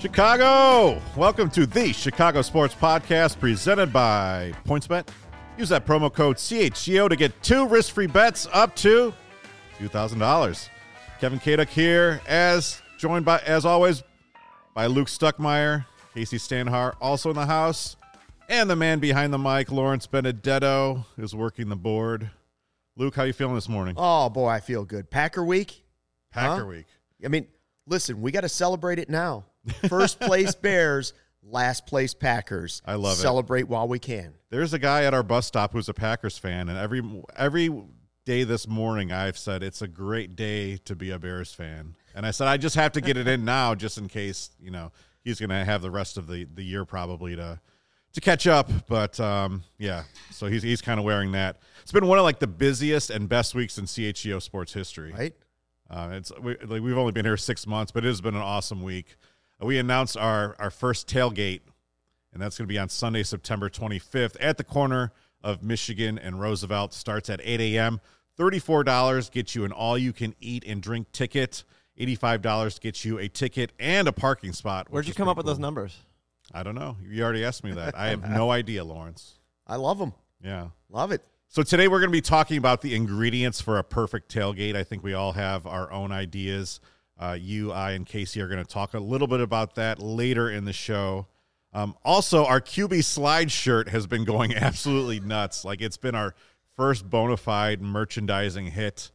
Chicago! Welcome to the Chicago Sports Podcast presented by PointsBet. Use that promo code CHGO to get 2 risk-free bets up to $2,000. Kevin Kaduk here, joined by, as always, by Luke Stuckmeyer, Casey Stanhar, also in the house, and the man behind the mic, Lawrence Benedetto, is working the board. Luke, how you feeling this morning? Oh, boy, I feel good. Packer week? Week. I mean, listen, we got to celebrate it now. First place Bears, last place Packers. I love it. Celebrate while we can. There's a guy at our bus stop who's a Packers fan, and every day this morning I've said it's a great day to be a Bears fan. And I said I just have to get it in now just in case, he's going to have the rest of the year probably to catch up. But, yeah, so he's kind of wearing that. It's been one of, the busiest and best weeks in CHGO sports history. Right? We've only been here 6 months, but it has been an awesome week. We announced our first tailgate, and that's going to be on Sunday, September 25th at the corner of Michigan and Roosevelt. Starts at 8 a.m. $34 gets you an all-you-can-eat and drink ticket. $85 gets you a ticket and a parking spot. Where'd you come up with those numbers? I don't know. You already asked me that. I have no idea, Lawrence. I love them. Yeah. Love it. So today we're going to be talking about the ingredients for a perfect tailgate. I think we all have our own ideas. You, I, and Casey are going to talk a little bit about that later in the show. Also, our QB slide shirt has been going absolutely nuts. It's been our first bona fide merchandising hit.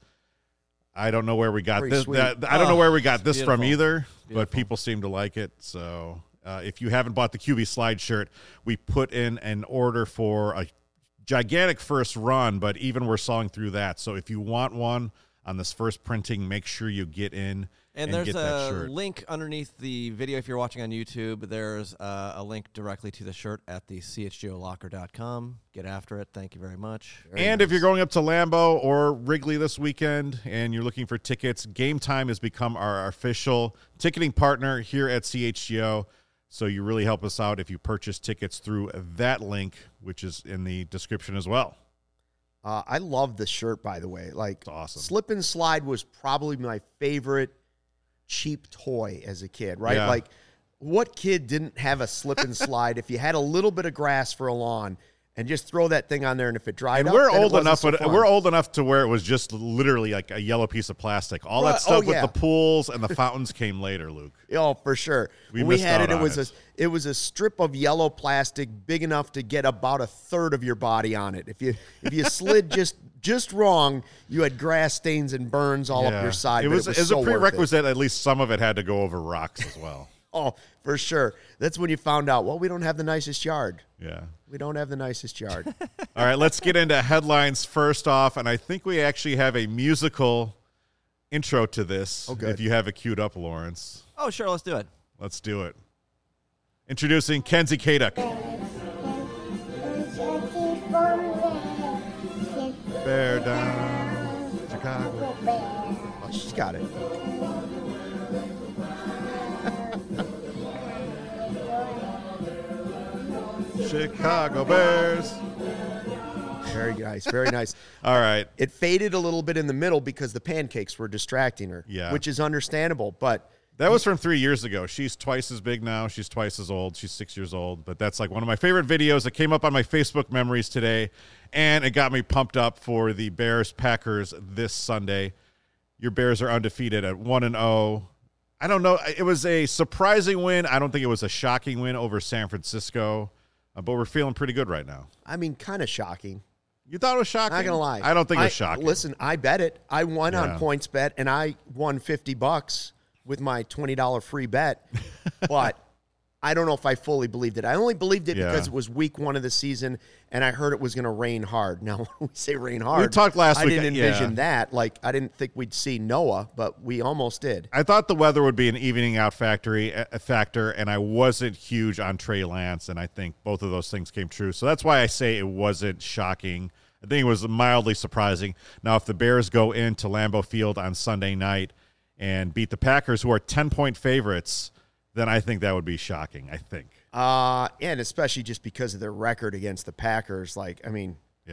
I don't know where we got this. I don't know where we got this from either, but people seem to like it. So if you haven't bought the QB slide shirt, we put in an order for a gigantic first run, but even we're selling through that. So if you want one on this first printing, make sure you get in and there's get that a shirt. Link underneath the video if you're watching on YouTube. There's a link directly to the shirt at the chgolocker.com. Get after it. Thank you very much. And if you're going up to Lambeau or Wrigley this weekend and you're looking for tickets, Game Time has become our official ticketing partner here at CHGO. So you really help us out if you purchase tickets through that link, which is in the description as well. I love the shirt, by the way. It's awesome. Slip and slide was probably my favorite cheap toy as a kid, right? Yeah. What kid didn't have a slip and slide if you had a little bit of grass for a lawn and just throw that thing on there, and if it dried up, we're old enough, so but we're old enough to where it was just literally like a yellow piece of plastic. All that stuff with the pools and the fountains came later, Luke. Oh, for sure. When we had it, it was a strip of yellow plastic big enough to get about a third of your body on it. If you slid just wrong, you had grass stains and burns all up your side. It was so a prerequisite. At least some of it had to go over rocks as well. Oh, for sure. That's when you found out, we don't have the nicest yard. Yeah. We don't have the nicest yard. All right, let's get into headlines first off, and I think we actually have a musical intro to this. Oh, good. If you have it queued up, Lawrence. Oh, sure. Let's do it. Let's do it. Introducing Kenzie Kaduk. Bear down, Chicago. Oh, she's got it. Chicago Bears. Very nice, very nice. All right. It faded a little bit in the middle because the pancakes were distracting her, which is understandable. But that was from 3 years ago. She's twice as big now. She's twice as old. She's 6 years old. But that's one of my favorite videos that came up on my Facebook memories today, and it got me pumped up for the Bears-Packers this Sunday. Your Bears are undefeated at 1-0. I don't know. It was a surprising win. I don't think it was a shocking win over San Francisco. But we're feeling pretty good right now. I mean, kind of shocking. You thought it was shocking? Not going to lie. I don't think it was shocking. Listen, I bet it. I won on PointsBet, and I won $50 with my $20 free bet. But I don't know if I fully believed it. I only believed it because it was week 1 of the season, and I heard it was going to rain hard. Now, when we say rain hard, we talked last week. I didn't envision that. I didn't think we'd see Noah, but we almost did. I thought the weather would be an evening out factor, and I wasn't huge on Trey Lance, and I think both of those things came true. So that's why I say it wasn't shocking. I think it was mildly surprising. Now, if the Bears go into Lambeau Field on Sunday night and beat the Packers, who are 10-point favorites, then I think that would be shocking, I think. And especially just because of their record against the Packers.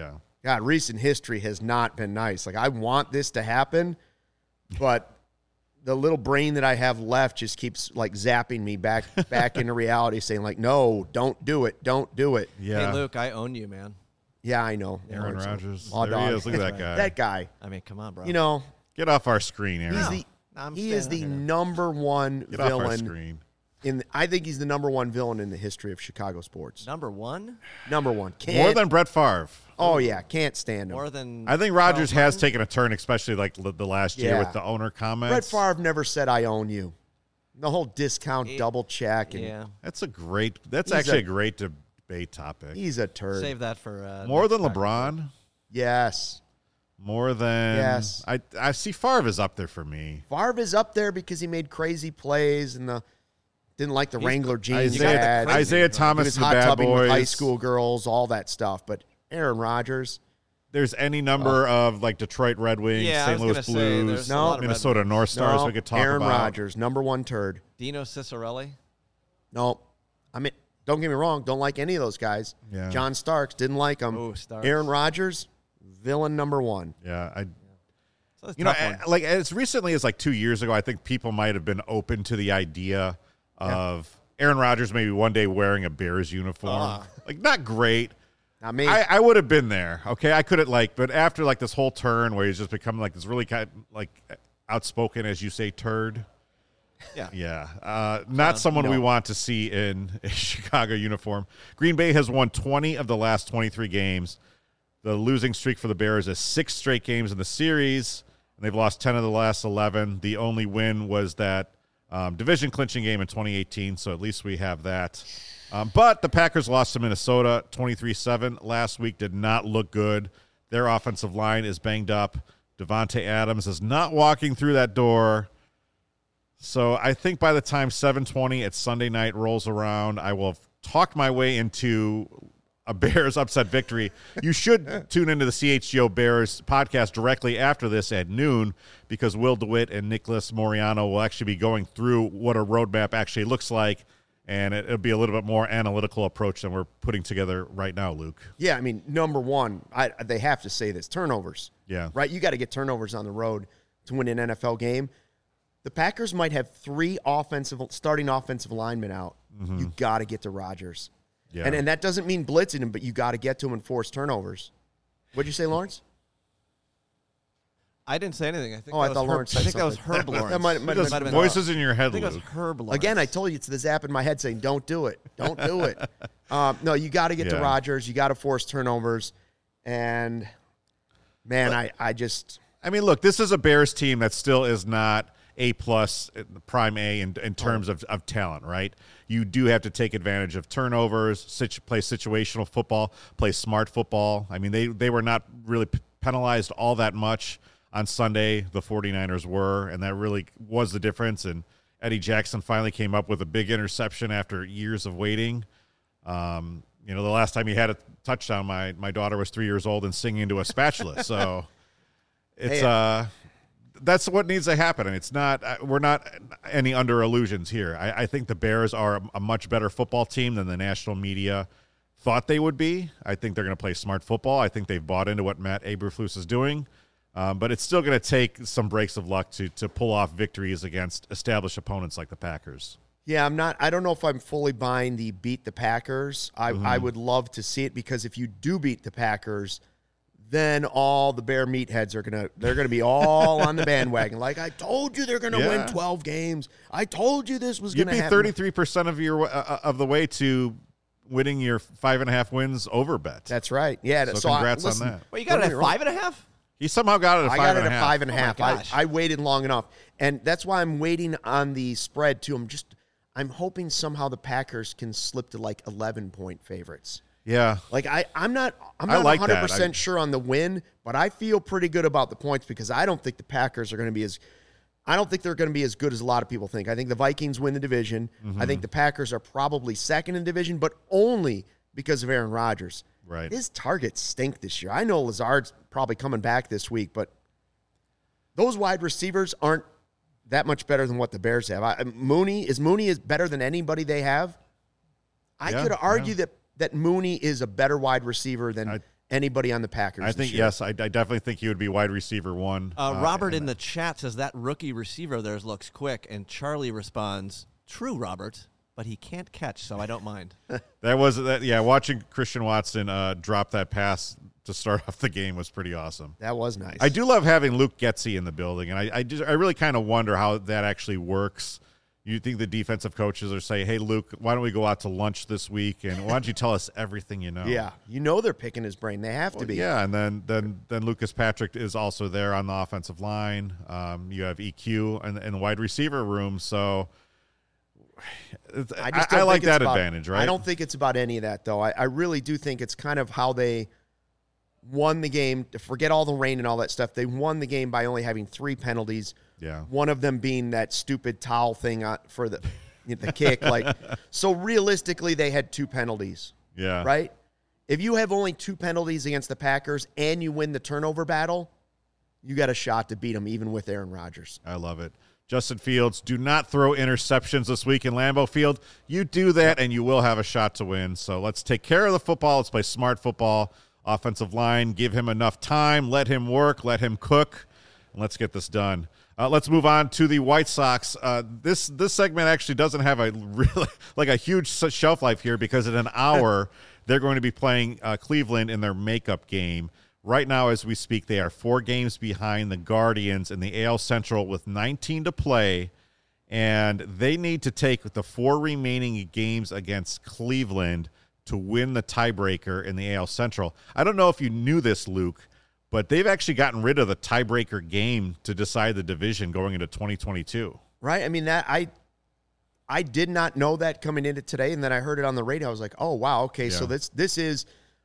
God, recent history has not been nice. I want this to happen, but the little brain that I have left just keeps like zapping me back into reality, saying like, no, don't do it. Don't do it. Yeah. Hey, Luke, I own you, man. Yeah, I know. Aaron Rodgers. Oh, There he dog. is. Look at that guy. That guy. I mean, come on, bro. You know, Get off our screen, Aaron. he is the number one Get off our villain. screen. I think he's the number one villain in the history of Chicago sports. Number one? Number one. More than Brett Favre. Oh, yeah. Can't stand him. More than I think Rodgers has taken a turn, especially like the last year Yeah. with the owner comments. Brett Favre never said, I own you. The whole discount double check. And Yeah. That's actually a great debate topic. He's a turd. Save that for More next than time. LeBron. Yes. More than Yes. I see Favre is up there for me. Favre is up there because he made crazy plays and didn't like the Wrangler jeans. Isaiah He Thomas, was the hot bad tubbing with high boys. school girls, all that stuff. But Aaron Rodgers, There's any number of like Detroit Red Wings, Yeah, I St. was Louis gonna say, Blues, there's a lot of Red Minnesota Wings. North Stars we could talk Aaron about. Rodgers, number one turd. Dino Cicerelli? No, I mean, don't get me wrong. Don't like any of those guys. Yeah. John Starks, didn't like him. Ooh, Starks. Aaron Rodgers, villain number one. Yeah, So that's a you know, tough one. like as recently as like 2 years ago, I think people might have been open to the idea of Aaron Rodgers maybe one day wearing a Bears uniform. Like not great. Not me. I would have been there. Okay, I couldn't but after like this whole turn where he's just become like this really kind of, like outspoken, as you say, turd. Yeah. Not someone we want to see in a Chicago uniform. Green Bay has won 20 of the last 23 games. The losing streak for the Bears is 6 straight games in the series, and they've lost 10 of the last 11. The only win was that division clinching game in 2018, so at least we have that. But the Packers lost to Minnesota 23-7 last week. Did not look good. Their offensive line is banged up. Devontae Adams is not walking through that door. So I think by the time 7:20 at Sunday night rolls around, I will have talked my way into a Bears upset victory. You should tune into the CHGO Bears podcast directly after this at noon, because Will DeWitt and Nicholas Moriano will actually be going through what a roadmap actually looks like, and it'll be a little bit more analytical approach than we're putting together right now, Luke. Yeah, I mean, number one, they have to say this, turnovers. Yeah. Right? You got to get turnovers on the road to win an NFL game. The Packers might have 3 starting offensive linemen out. Mm-hmm. You got to get to Rodgers. Yeah. And that doesn't mean blitzing him, but you got to get to him and force turnovers. What'd you say, Lawrence? I didn't say anything. I think I that thought was Lawrence Herb. I said think that was something. Herb Lawrence. That might have been Voices in your I head, think it was Luke. Herb Lawrence. Again, I told you it's the zap in my head saying, don't do it. Don't do it. No, you got to get to Yeah. Rodgers. You got to force turnovers. And, man, I mean, look, this is a Bears team that still is not A+, prime A in terms of talent, right? You do have to take advantage of turnovers, play situational football, play smart football. I mean, they were not really penalized all that much on Sunday. The 49ers were, and that really was the difference. And Eddie Jackson finally came up with a big interception after years of waiting. You know, the last time he had a touchdown, my daughter was 3 years old and singing into a spatula. So it's that's what needs to happen. And it's not, we're not any under illusions here. I think the Bears are a much better football team than the national media thought they would be. I think they're going to play smart football. I think they've bought into what Matt Eberflus is doing. But it's still going to take some breaks of luck to pull off victories against established opponents like the Packers. Yeah, I don't know if I'm fully buying the beat the Packers. I would love to see it, because if you do beat the Packers, then all the Bear meatheads they're gonna be all on the bandwagon. Like, I told you they're gonna win 12 games. I told you this was gonna happen. You'd be 33% of your of the way to winning your 5.5 wins over bet. That's right. Yeah. So congrats on that. Well, you got it at 5.5? He somehow got it at 5.5. I got it at 5.5. Oh my gosh. I waited long enough, and that's why I'm waiting on the spread too. I'm hoping somehow the Packers can slip to like 11-point favorites. Yeah. Like I'm not like 100% sure on the win, but I feel pretty good about the points, because I don't think the Packers are going to be I don't think they're going to be as good as a lot of people think. I think the Vikings win the division. I think the Packers are probably second in division, but only because of Aaron Rodgers. Right. His targets stink this year. I know Lazard's probably coming back this week, but those wide receivers aren't that much better than what the Bears have. Mooney is better than anybody they have. I could argue that Mooney is a better wide receiver than anybody on the Packers. I think, yes, I definitely think he would be wide receiver 1. Robert in the chat says that rookie receiver of theirs looks quick, and Charlie responds, "True, Robert, but he can't catch, so I don't mind." Watching Christian Watson drop that pass to start off the game was pretty awesome. That was nice. I do love having Luke Getsy in the building, and I really kind of wonder how that actually works. You think the defensive coaches are saying, "Hey, Luke, why don't we go out to lunch this week, and why don't you tell us everything you know?" Yeah, they're picking his brain. They have to be. Yeah, and then Lucas Patrick is also there on the offensive line. You have EQ and the wide receiver room, so I like that advantage, right? I don't think it's about any of that, though. I really do think it's kind of how they won the game. To forget all the rain and all that stuff, they won the game by only having 3 penalties. Yeah, one of them being that stupid towel thing for the kick. So realistically, they had 2 penalties. Yeah, right. If you have only 2 penalties against the Packers and you win the turnover battle, you got a shot to beat them, even with Aaron Rodgers. I love it. Justin Fields, do not throw interceptions this week in Lambeau Field. You do that, and you will have a shot to win. So let's take care of the football. Let's play smart football. Offensive line, give him enough time. Let him work. Let him cook. And let's get this done. Let's move on to the White Sox. This segment actually doesn't have a really a huge shelf life here because in an hour they're going to be playing Cleveland in their makeup game. Right now, as we speak, they are 4 games behind the Guardians in the AL Central with 19 to play, and they need to take the 4 remaining games against Cleveland to win the tiebreaker in the AL Central. I don't know if you knew this, Luke, but they've actually gotten rid of the tiebreaker game to decide the division going into 2022. Right? I mean, that I did not know that coming into today, and then I heard it on the radio. I was like, oh, wow, okay, yeah. So this is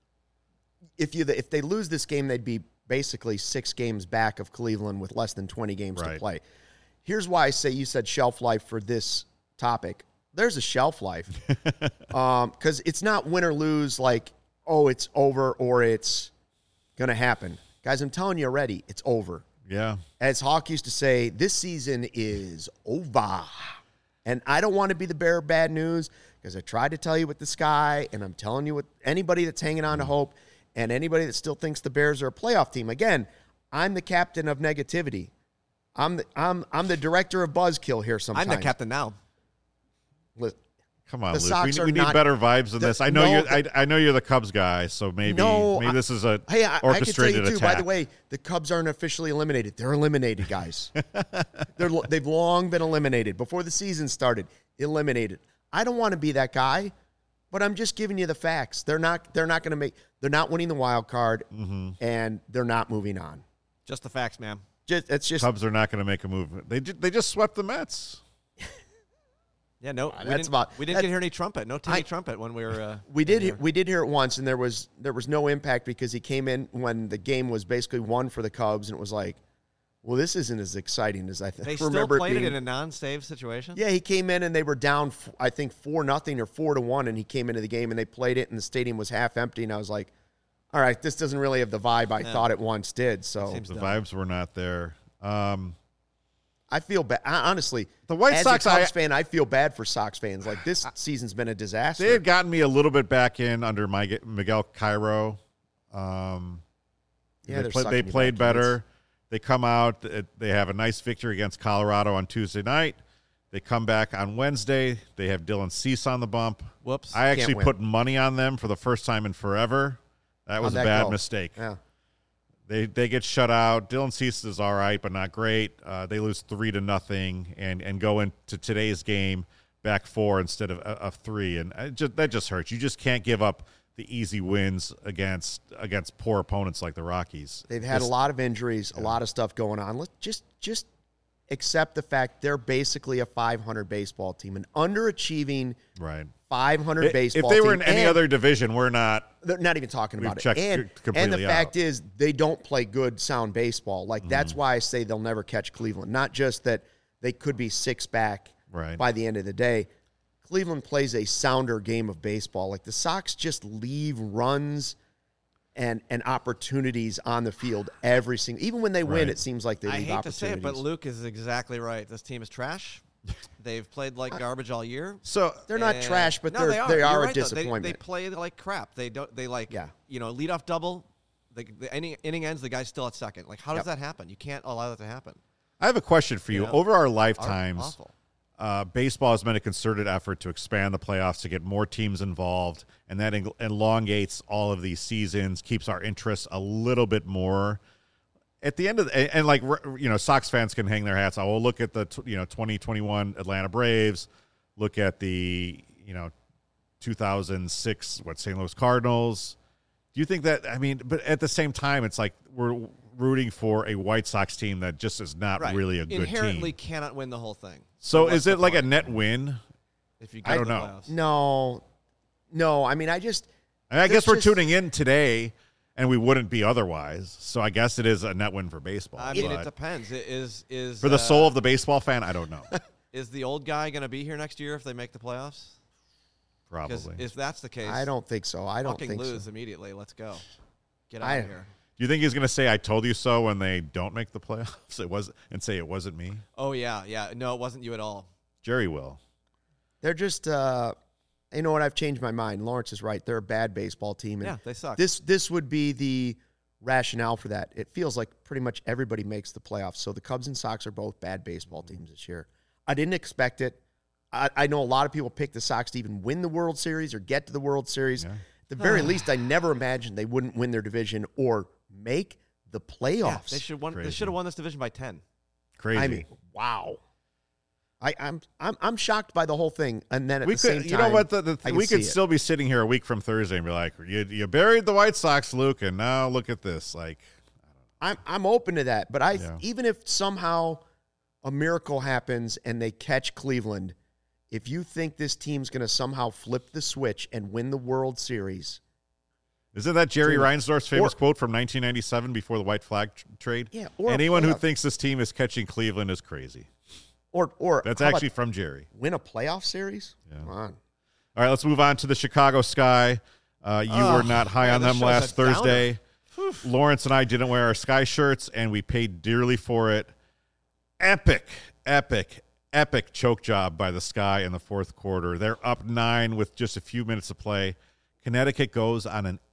if they lose this game, they'd be basically 6 games back of Cleveland with less than 20 games to play. Here's why I say you said shelf life for this topic. There's a shelf life because it's not win or lose it's over or it's going to happen. Guys, I'm telling you already, it's over. Yeah. As Hawk used to say, this season is over. And I don't want to be the bearer of bad news because I tried to tell you with the sky, and I'm telling you with anybody that's hanging on to hope and anybody that still thinks the Bears are a playoff team. Again, I'm the captain of negativity. I'm the director of buzzkill here sometimes. I'm the captain now. Come on, Luke. We need better vibes than this. I know you're the Cubs guy, so maybe this is a orchestrated I can tell you too, attack. By the way, the Cubs aren't officially eliminated. They're eliminated, guys. They've long been eliminated. Before the season started, eliminated. I don't want to be that guy, but I'm just giving you the facts. They're not winning the wild card, and they're not moving on. Just the facts, man. Cubs are not going to make a move. They just swept the Mets. Yeah, no, we didn't hear any trumpet. No Timmy trumpet when we were. We did hear it once, and there was no impact because he came in when the game was basically won for the Cubs, and it was like, well, this isn't as exciting as I think. They still played it in a non-save situation. Yeah, he came in and they were down, I think 4-0 or 4-1, and he came into the game and they played it, and the stadium was half empty, and I was like, all right, this doesn't really have the vibe I thought it once did. So the vibes were not there. I feel bad. Honestly, the White Sox, as a Cubs fan, I feel bad for Sox fans. Like, this season's been a disaster. They had gotten me a little bit back in under Miguel Cairo. They played better. They come out. They have a nice victory against Colorado on Tuesday night. They come back on Wednesday. They have Dylan Cease on the bump. Whoops. I actually put money on them for the first time in forever. That was a bad mistake. Yeah. They get shut out. Dylan Cease is all right, but not great. They lose 3-0 and go into today's game back 4 instead of 3, and that just hurts. You just can't give up the easy wins against poor opponents like the Rockies. They've had a lot of injuries, a lot of stuff going on. Let's just accept the fact they're basically a 500 baseball team, an underachieving 500 baseball team. If they were in any other division, they're not even talking about it. And the fact is, they don't play good, sound baseball. Like, that's why I say they'll never catch Cleveland. Not just that they could be 6 back by the end of the day. Cleveland plays a sounder game of baseball. Like, the Sox just leave runs and opportunities on the field every single. Even when they win, it seems like they leave opportunities. I hate to say it, but Luke is exactly right. This team is trash. They've played like garbage all year. So they're not trash, but they are a disappointment. They play like crap. They lead off double The inning ends, the guy's still at second. Like, how does that happen? You can't allow that to happen. I have a question for you. Over our lifetimes, awful. Baseball has been a concerted effort to expand the playoffs, to get more teams involved, and that elongates all of these seasons, keeps our interest a little bit more. At the end of and like, you know, Sox fans can hang their hats. We'll look at the 2021 Atlanta Braves, look at the 2006 St. Louis Cardinals. Do you think that? I mean, but at the same time, it's like we're rooting for a White Sox team that just is not really a good team. Inherently cannot win the whole thing. So is it like a net win? If you get I don't the know. playoffs? No. I mean, I guess we're tuning in today, and we wouldn't be otherwise. So I guess it is a net win for baseball. I mean, it depends. Is for the soul of the baseball fan? I don't know. Is the old guy going to be here next year if they make the playoffs? Probably. If that's the case, I don't think so. I don't think lose so. immediately. Let's go. Get out of here. Do you think he's going to say "I told you so" when they don't make the playoffs? And say it wasn't me. Oh yeah. No, it wasn't you at all. Jerry will. They're just. You know what? I've changed my mind. Lawrence is right. They're a bad baseball team. And they suck. This would be the rationale for that. It feels like pretty much everybody makes the playoffs. So the Cubs and Sox are both bad baseball teams this year. I didn't expect it. I know a lot of people picked the Sox to even win the World Series or get to the World Series. Yeah. At the very least, I never imagined they wouldn't win their division or make the playoffs. Yeah, they should have won this division by 10. Crazy. I mean, wow. I'm shocked by the whole thing, and then at the same time, you know what? We could still be sitting here a week from Thursday and be like, "You buried the White Sox, Luke, and now look at this." Like, I'm open to that, but even if somehow a miracle happens and they catch Cleveland, if you think this team's going to somehow flip the switch and win the World Series, isn't that Jerry Reinsdorf's famous quote from 1997 before the white flag trade? Yeah. Anyone who thinks this team is catching Cleveland is crazy. Or that's actually from Jerry. Win a playoff series? Yeah. Come on. All right, let's move on to the Chicago Sky. You were not high on them last Thursday. Lawrence and I didn't wear our Sky shirts, and we paid dearly for it. Epic choke job by the Sky in the fourth quarter. They're up 9 with just a few minutes to play. Connecticut goes on an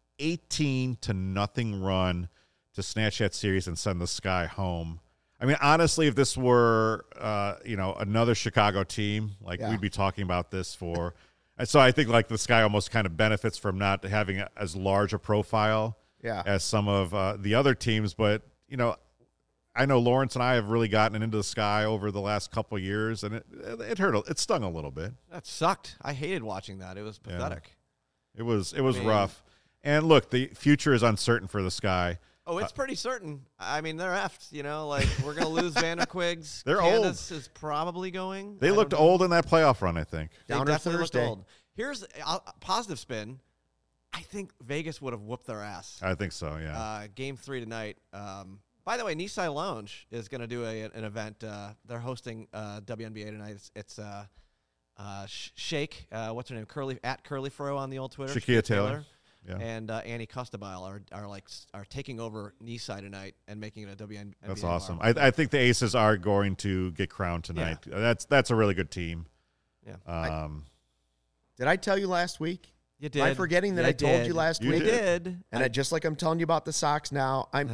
18-0 run to snatch that series and send the Sky home. I mean, honestly, if this were, another Chicago team, we'd be talking about this for. And so I think the Sky almost kind of benefits from not having as large a profile as some of the other teams. But, I know Lawrence and I have really gotten into the Sky over the last couple of years, and it hurt. It stung a little bit. That sucked. I hated watching that. It was pathetic. Yeah. It was rough. And look, the future is uncertain for the Sky. Oh, it's pretty certain. I mean, they're effed, we're going to lose Vanderquigs. They're Candace old. Is probably going. They looked old in that playoff run, I think. They definitely looked old. Here's a positive spin. I think Vegas would have whooped their ass. I think so, yeah. Game 3 tonight. By the way, Nisei Lounge is going to do an event. They're hosting WNBA tonight. It's Shake, what's her name? Curly Fro on the old Twitter. Shaquille Taylor. Yeah. And Annie Costabile are taking over Nisei tonight and making it a WNBA. That's awesome. I think the Aces are going to get crowned tonight. Yeah. That's a really good team. Yeah. Did I tell you last week? You did. Am I forgetting that I told you last week? You did. And just like I'm telling you about the Sox now, I'm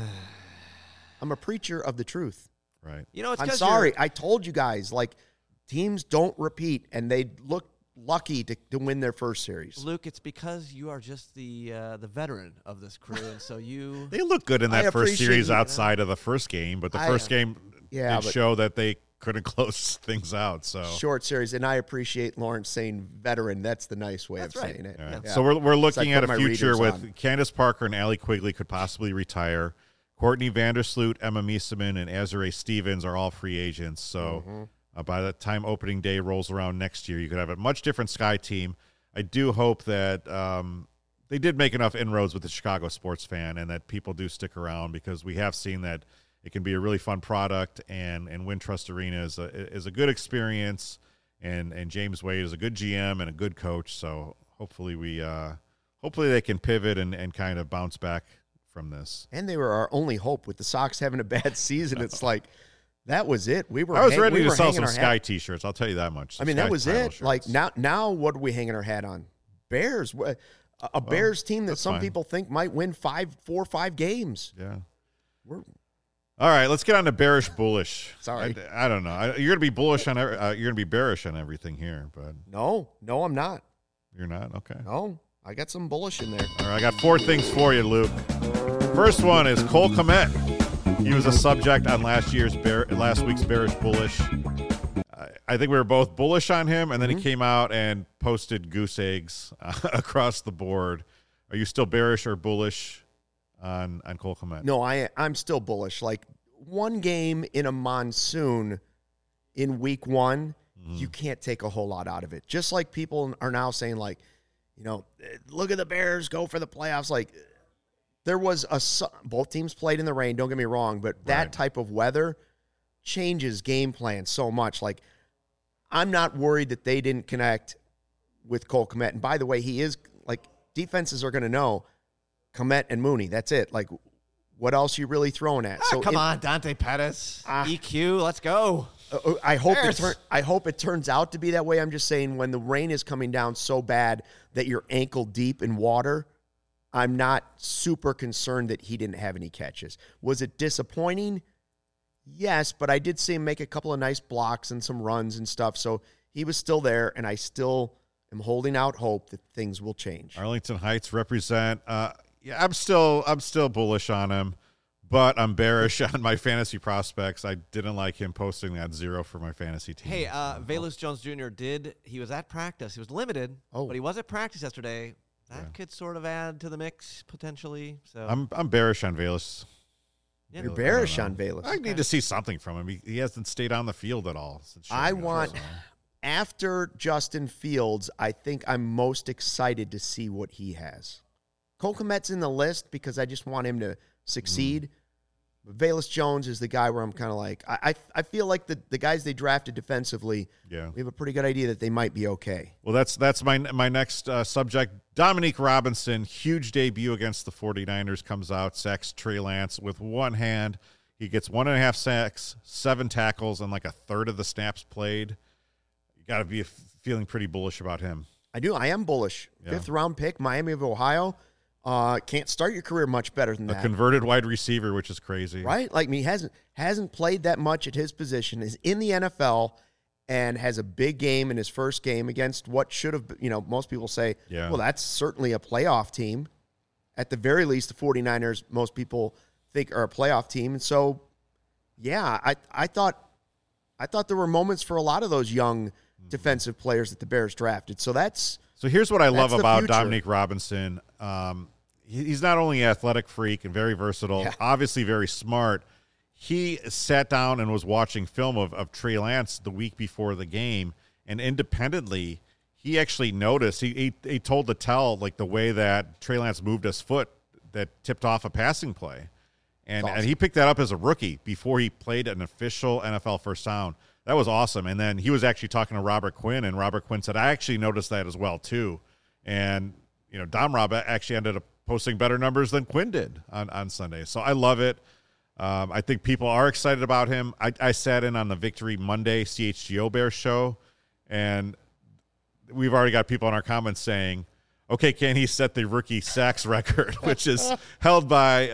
a preacher of the truth. Right. I'm sorry. I told you guys, teams don't repeat, and they look lucky to win their first series. Luke, it's because you are just the veteran of this crew, and so you... They look good in that first series outside of the first game, but the first game did show that they couldn't close things out. So short series, and I appreciate Lawrence saying veteran. That's the nice way of saying it. Yeah. Yeah. So we're looking at a future with Candace Parker and Allie Quigley could possibly retire. Courtney Vandersloot, Emma Miesemann, and Azurá Stevens are all free agents. So by the time opening day rolls around next year, you could have a much different Sky team. I do hope that they did make enough inroads with the Chicago sports fan and that people do stick around, because we have seen that it can be a really fun product, and Wintrust Arena is a good experience, and James Wade is a good GM and a good coach. So hopefully they can pivot and kind of bounce back from this. And they were our only hope with the Sox having a bad season. It's that was it. I was ready to sell some Sky T-shirts. I'll tell you that much. I mean, that was it. Shirts. Now what are we hanging our hat on? Bears. a Bears team that some people think might win 4 or 5 games. Yeah. All right, let's get on to bearish, bullish. Sorry, I don't know. You're gonna be bullish on. You're gonna be bearish on everything here, but no, I'm not. You're not. Okay. No, I got some bullish in there. All right, I got 4 things for you, Luke. First one is Cole Kmet. He was a subject on last week's bearish, bullish. I think we were both bullish on him, and then he came out and posted goose eggs across the board. Are you still bearish or bullish on Cole Kmet? No, I'm still bullish. Like, one game in a monsoon in week 1, you can't take a whole lot out of it. Just like people are now saying, like, look at the Bears, go for the playoffs. Like, there was both teams played in the rain, don't get me wrong, but that type of weather changes game plan so much. Like, I'm not worried that they didn't connect with Cole Kmet. And by the way, he is, like, defenses are going to know Kmet and Mooney. That's it. Like, what else are you really throwing at? Come on, Dante Pettis. EQ, let's go. I hope it turns out to be that way. I'm just saying, when the rain is coming down so bad that you're ankle deep in water, I'm not super concerned that he didn't have any catches. Was it disappointing? Yes, but I did see him make a couple of nice blocks and some runs and stuff. So he was still there, and I still am holding out hope that things will change. Arlington Heights represent. I'm still bullish on him, but I'm bearish on my fantasy prospects. I didn't like him posting that 0 for my fantasy team. Hey, Velus Jones Jr. he was at practice. He was limited, but he was at practice yesterday. That could sort of add to the mix potentially. So I'm bearish on Velus. Yeah, you're bearish on Velus. I need to see something from him. He hasn't stayed on the field at all. After Justin Fields, I think I'm most excited to see what he has. Cole Kmet's in the list because I just want him to succeed. But Velus Jones is the guy where I'm kind of like, I feel like the guys they drafted defensively, we have a pretty good idea that they might be okay. Well, that's my next subject. Dominique Robinson, huge debut against the 49ers, comes out, sacks Trey Lance with one hand. He gets 1.5 sacks, 7 tackles, and like a third of the snaps played. You got to be feeling pretty bullish about him. I do. I am bullish. 5th round pick, Miami of Ohio. Can't start your career much better than that. A converted wide receiver, which is crazy. Right? Like, he hasn't played that much at his position, is in the NFL, and has a big game in his first game against what should have, most people say, well, that's certainly a playoff team. At the very least, the 49ers, most people think, are a playoff team. And so, I thought there were moments for a lot of those young defensive players that the Bears drafted. So here's what I love about Dominique Robinson. He's not only an athletic freak and very versatile, obviously very smart. He sat down and was watching film of Trey Lance the week before the game, and independently, he actually noticed. He told the tell, like, the way that Trey Lance moved his foot that tipped off a passing play. And he picked that up as a rookie before he played an official NFL first down. That was awesome. And then he was actually talking to Robert Quinn, and Robert Quinn said, I actually noticed that as well, too. And, Dom Rob actually ended up posting better numbers than Quinn did on Sunday. So I love it. I think people are excited about him. I sat in on the Victory Monday CHGO Bears show, and we've already got people in our comments saying, okay, can he set the rookie sacks record, which is held by,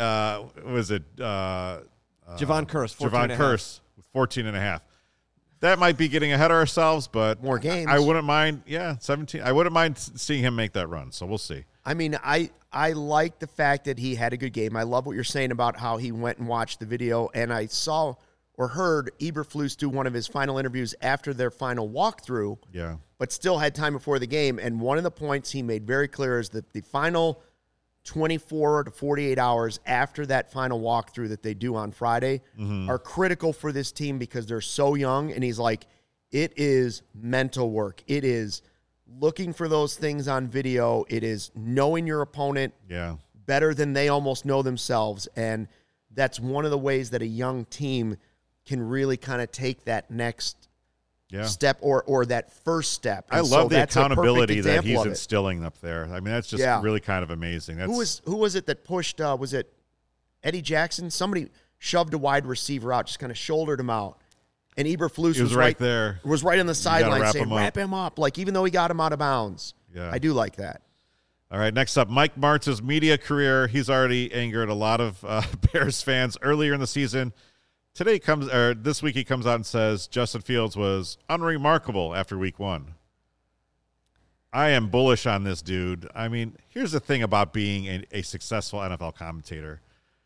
Javon Curse, Javon Curse with 14.5. That might be getting ahead of ourselves, but more games. I wouldn't mind, 17. I wouldn't mind seeing him make that run, so we'll see. I mean, I like the fact that he had a good game. I love what you're saying about how he went and watched the video, and I saw or heard Eberflus do one of his final interviews after their final walkthrough, but still had time before the game, and one of the points he made very clear is that the final 24 to 48 hours after that final walkthrough that they do on Friday are critical for this team because they're so young, and he's like, it is mental work. It is looking for those things on video. It is knowing your opponent better than they almost know themselves. And that's one of the ways that a young team can really kind of take that next step or that first step. And I love the accountability that he's instilling up there. I mean, that's just really kind of amazing. Who was it that pushed, was it Eddie Jackson? Somebody shoved a wide receiver out, just kind of shouldered him out. And Eberflus was right there. Was right on the sideline saying, wrap him up. Like, even though he got him out of bounds. Yeah. I do like that. All right, next up, Mike Martz's media career. He's already angered a lot of Bears fans earlier in the season. This week he comes out and says Justin Fields was unremarkable after week 1. I am bullish on this dude. I mean, here's the thing about being a successful NFL commentator.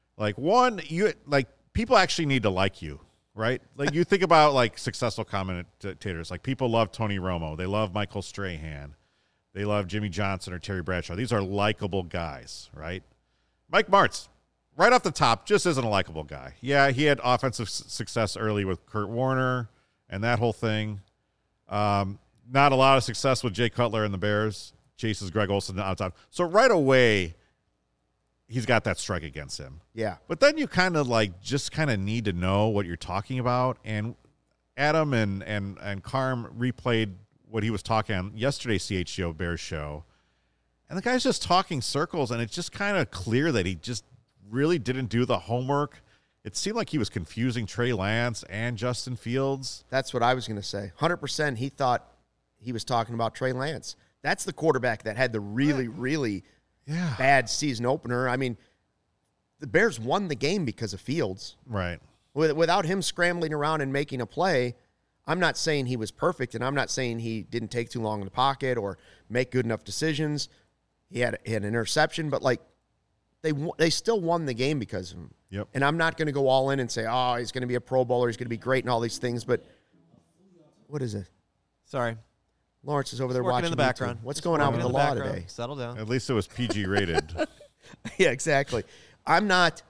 People actually need to like you, right? Like you think about successful commentators. Like people love Tony Romo. They love Michael Strahan. They love Jimmy Johnson or Terry Bradshaw. These are likable guys, right? Mike Martz, right off the top, just isn't a likable guy. Yeah, he had offensive success early with Kurt Warner and that whole thing. Not a lot of success with Jay Cutler and the Bears. Chases Greg Olsen outside. So right away, he's got that strike against him. Yeah. But then you kind of need to know what you're talking about. And Adam and Carm replayed what he was talking on yesterday's CHGO Bears show. And the guy's just talking circles, and it's just kind of clear that he just really didn't do the homework. It seemed like he was confusing Trey Lance and Justin Fields. That's what I was going to say. 100% he thought he was talking about Trey Lance. That's the quarterback that had the really bad season opener. I mean, the Bears won the game because of Fields. Right. Without him scrambling around and making a play, I'm not saying he was perfect, and I'm not saying he didn't take too long in the pocket or make good enough decisions. He had an interception, but they still won the game because of him. Yep. And I'm not going to go all in and say, oh, he's going to be a Pro Bowler, he's going to be great and all these things, but what is it? Sorry. Lawrence is over there watching in the background. What's going on with the law today? Settle down. At least it was PG rated. Yeah, exactly. I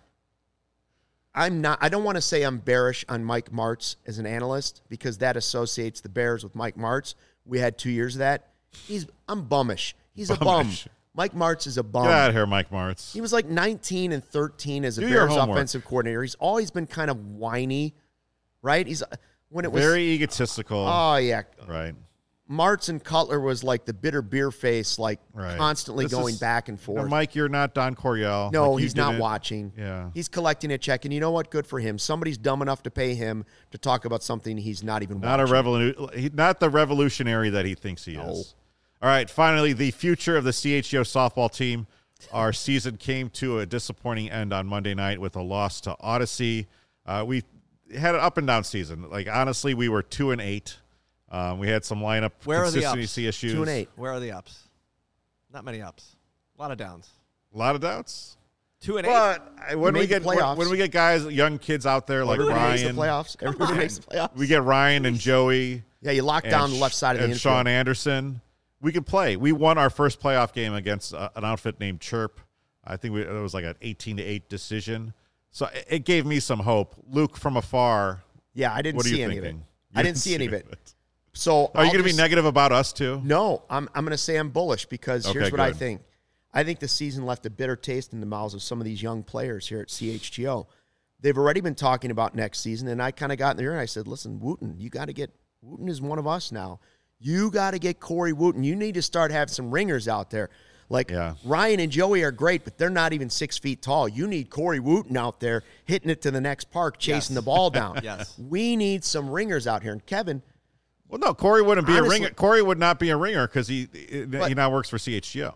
don't want to say I'm bearish on Mike Martz as an analyst because that associates the Bears with Mike Martz. We had 2 years of that. I'm bummish. He's a bum. Mike Martz is a bum. Get out of here, Mike Martz. He was 19-13 as a Bears offensive coordinator. He's always been kind of whiny, right? Very egotistical. Oh, yeah. Right. Martz and Cutler was like the bitter beer face, constantly going back and forth. Mike, you're not Don Coryell. No, he's not watching. Yeah. He's collecting a check, and you know what? Good for him. Somebody's dumb enough to pay him to talk about something he's not even watching. Not the revolutionary that he thinks he is. All right, finally, the future of the CHGO softball team. Our season came to a disappointing end on Monday night with a loss to Odyssey. We had an up and down season. Honestly, we were 2-8. We had some lineup consistency issues. 2-8. Where are the ups? Not many ups. A lot of downs. A lot of doubts. 2-8. But when we get guys, young kids out there like Ryan, Everybody makes the playoffs. We get Ryan and Joey. Yeah, you lock down the left side of the infield. Sean Anderson. We could play. We won our first playoff game against an outfit named Chirp. I think it was an 18-8 decision. So it gave me some hope. Luke, from afar. Yeah, I didn't see any of it. I didn't see any of it. So are you going to be negative about us too? No, I'm going to say I'm bullish because here's what I think. I think the season left a bitter taste in the mouths of some of these young players here at CHGO. They've already been talking about next season, and I kind of got in there and I said, listen, Wooten, you got to get – Wooten is one of us now. You got to get Corey Wooten. You need to start having some ringers out there. Ryan and Joey are great, but they're not even 6 feet tall. You need Corey Wooten out there hitting it to the next park, chasing the ball down. Yes. We need some ringers out here. And Kevin – well, no, Corey wouldn't be a ringer. Corey would not be a ringer because he now works for CHGO.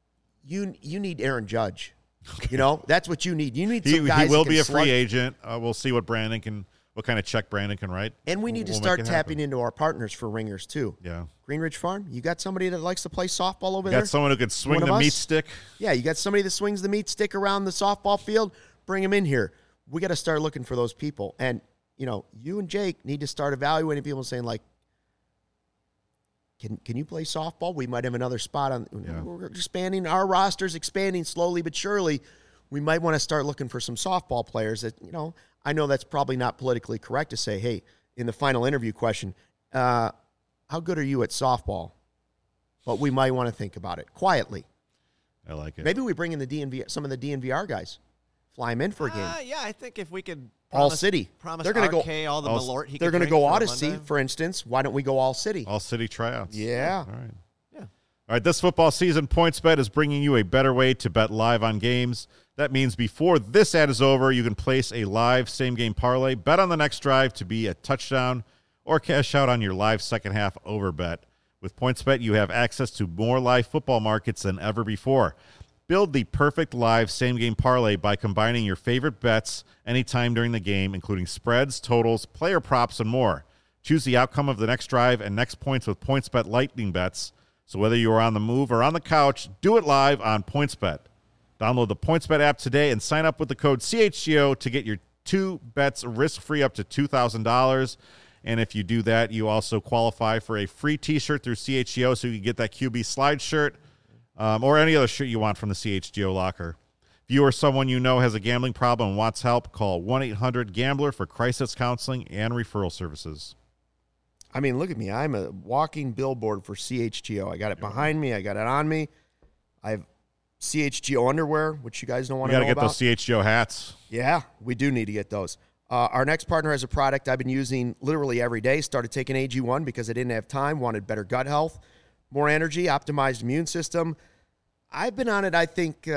You need Aaron Judge. Okay. That's what you need. You need some guys. He will be a free agent. We'll see what kind of check Brandon can write. And we need to start tapping into our partners for ringers too. Yeah. Greenridge Farm, you got somebody that likes to play softball over there? You got someone who can swing the meat stick? Yeah, you got somebody that swings the meat stick around the softball field? Bring him in here. We got to start looking for those people. And, you and Jake need to start evaluating people and saying, Can you play softball? We might have another spot on. Yeah. We're expanding. Our roster's expanding slowly but surely. We might want to start looking for some softball players that, I know that's probably not politically correct to say, hey, in the final interview question, how good are you at softball? But we might want to think about it quietly. I like it. Maybe we bring in some of the DNVR guys, fly them in for a game. Yeah, I think if we could. All City. They're going to go all the Malort. They're going to go Odyssey, for instance. Why don't we go All City? All City tryouts. Yeah. All right. Yeah. All right. This football season, PointsBet is bringing you a better way to bet live on games. That means before this ad is over, you can place a live same-game parlay, bet on the next drive to be a touchdown, or cash out on your live second-half over bet. With PointsBet, you have access to more live football markets than ever before. Build the perfect live same-game parlay by combining your favorite bets anytime during the game, including spreads, totals, player props, and more. Choose the outcome of the next drive and next points with PointsBet Lightning Bets. So whether you are on the move or on the couch, do it live on PointsBet. Download the PointsBet app today and sign up with the code CHGO to get your 2 bets risk-free up to $2,000. And if you do that, you also qualify for a free T-shirt through CHGO, so you can get that QB slide shirt or any other shirt you want from the CHGO locker. If you or someone you know has a gambling problem and wants help, call 1-800-GAMBLER for crisis counseling and referral services. I mean, look at me. I'm a walking billboard for CHGO. I got it behind me. I got it on me. I have CHGO underwear, which you guys don't want to know about. You got to get those CHGO hats. Yeah, we do need to get those. Our next partner has a product I've been using literally every day. Started taking AG1 because I didn't have time, wanted better gut health, more energy, optimized immune system. I've been on it, I think,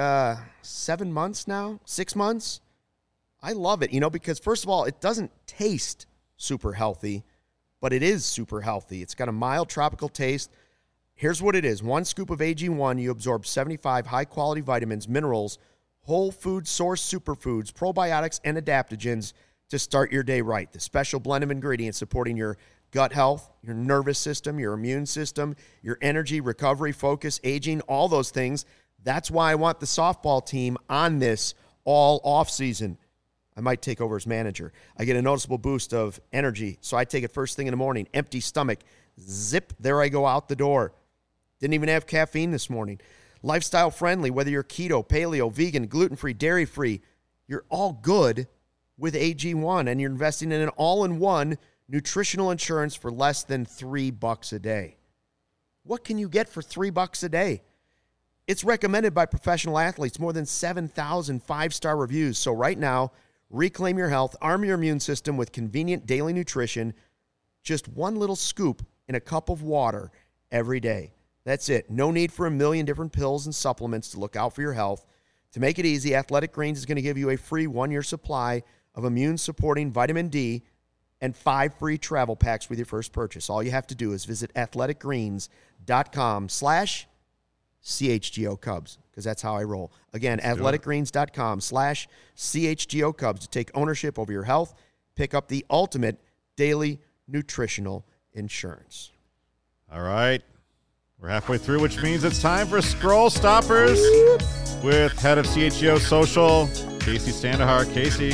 7 months now, 6 months. I love it, because first of all, it doesn't taste super healthy, but it is super healthy. It's got a mild tropical taste. Here's what it is. 1 scoop of AG1, you absorb 75 high-quality vitamins, minerals, whole food source superfoods, probiotics, and adaptogens to start your day right. The special blend of ingredients supporting your gut health, your nervous system, your immune system, your energy, recovery, focus, aging, all those things. That's why I want the softball team on this all offseason. I might take over as manager. I get a noticeable boost of energy, so I take it first thing in the morning, empty stomach, zip, there I go out the door. Didn't even have caffeine this morning. Lifestyle friendly, whether you're keto, paleo, vegan, gluten-free, dairy-free, you're all good with AG1, and you're investing in an all-in-one nutritional insurance for less than $3 a day. What can you get for $3 a day? It's recommended by professional athletes, more than 7,000 5-star reviews. So right now, reclaim your health, arm your immune system with convenient daily nutrition, just 1 little scoop in a cup of water every day. That's it. No need for a million different pills and supplements to look out for your health. To make it easy, Athletic Greens is going to give you a free 1-year supply of immune-supporting vitamin D and 5 free travel packs with your first purchase. All you have to do is visit athleticgreens.com/CHGO Cubs, because that's how I roll. Again, athleticgreens.com/CHGO Cubs to take ownership over your health. Pick up the ultimate daily nutritional insurance. All right. We're halfway through, which means it's time for Scroll Stoppers with head of CHGO Social, Casey Standahar. Casey.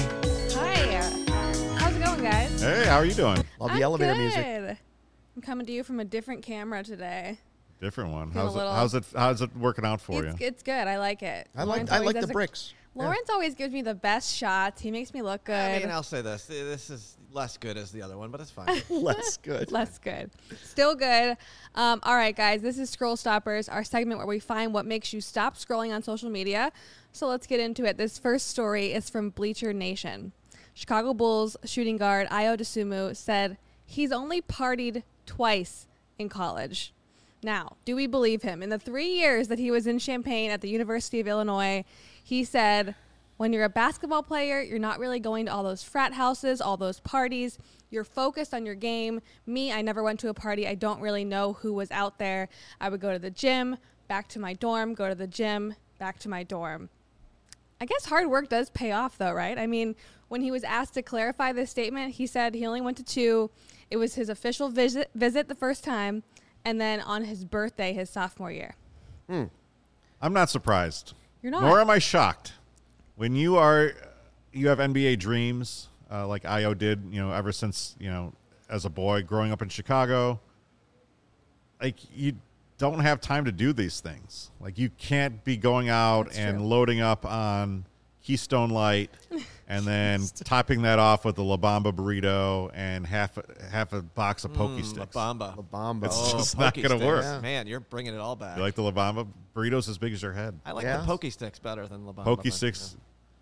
Guys. Hey, how are you doing? Love the elevator good. music. I'm coming to you from a different camera today. Different one. How's it working out for you? It's good. I like it. I like the bricks. Lawrence always gives me the best shots. He makes me look good. I mean, I'll say this. This is less good as the other one, but it's fine. Less good. Less good. Still good. All right, guys. This is Scroll Stoppers, our segment where we find what makes you stop scrolling on social media. So let's get into it. This first story is from Bleacher Nation. Chicago Bulls shooting guard Ayo Dosunmu said he's only partied twice in college. Now, do we believe him? In the 3 years that he was in Champaign at the University of Illinois, he said, when you're a basketball player, you're not really going to all those frat houses, all those parties. You're focused on your game. Me, I never went to a party. I don't really know who was out there. I would go to the gym, back to my dorm, go to the gym, back to my dorm. I guess hard work does pay off, though, right? I mean, when he was asked to clarify this statement, he said he only went to 2. It was his official visit the first time, and then on his birthday, his sophomore year. I'm not surprised. You're not. Nor am I shocked. When you have NBA dreams, like Ayo did, ever since, as a boy growing up in Chicago, like you don't have time to do these things. Like you can't be going out That's and true. loading up on Keystone Light and then topping that off with a La Bamba burrito and half a box of Pokey Sticks. La Bamba. It's just not going to work. Yeah. Man, you're bringing it all back. You like the La Bamba? Burritos as big as your head. I like Yeah. the Pokey Sticks better than La Bamba. Pokey but, Sticks.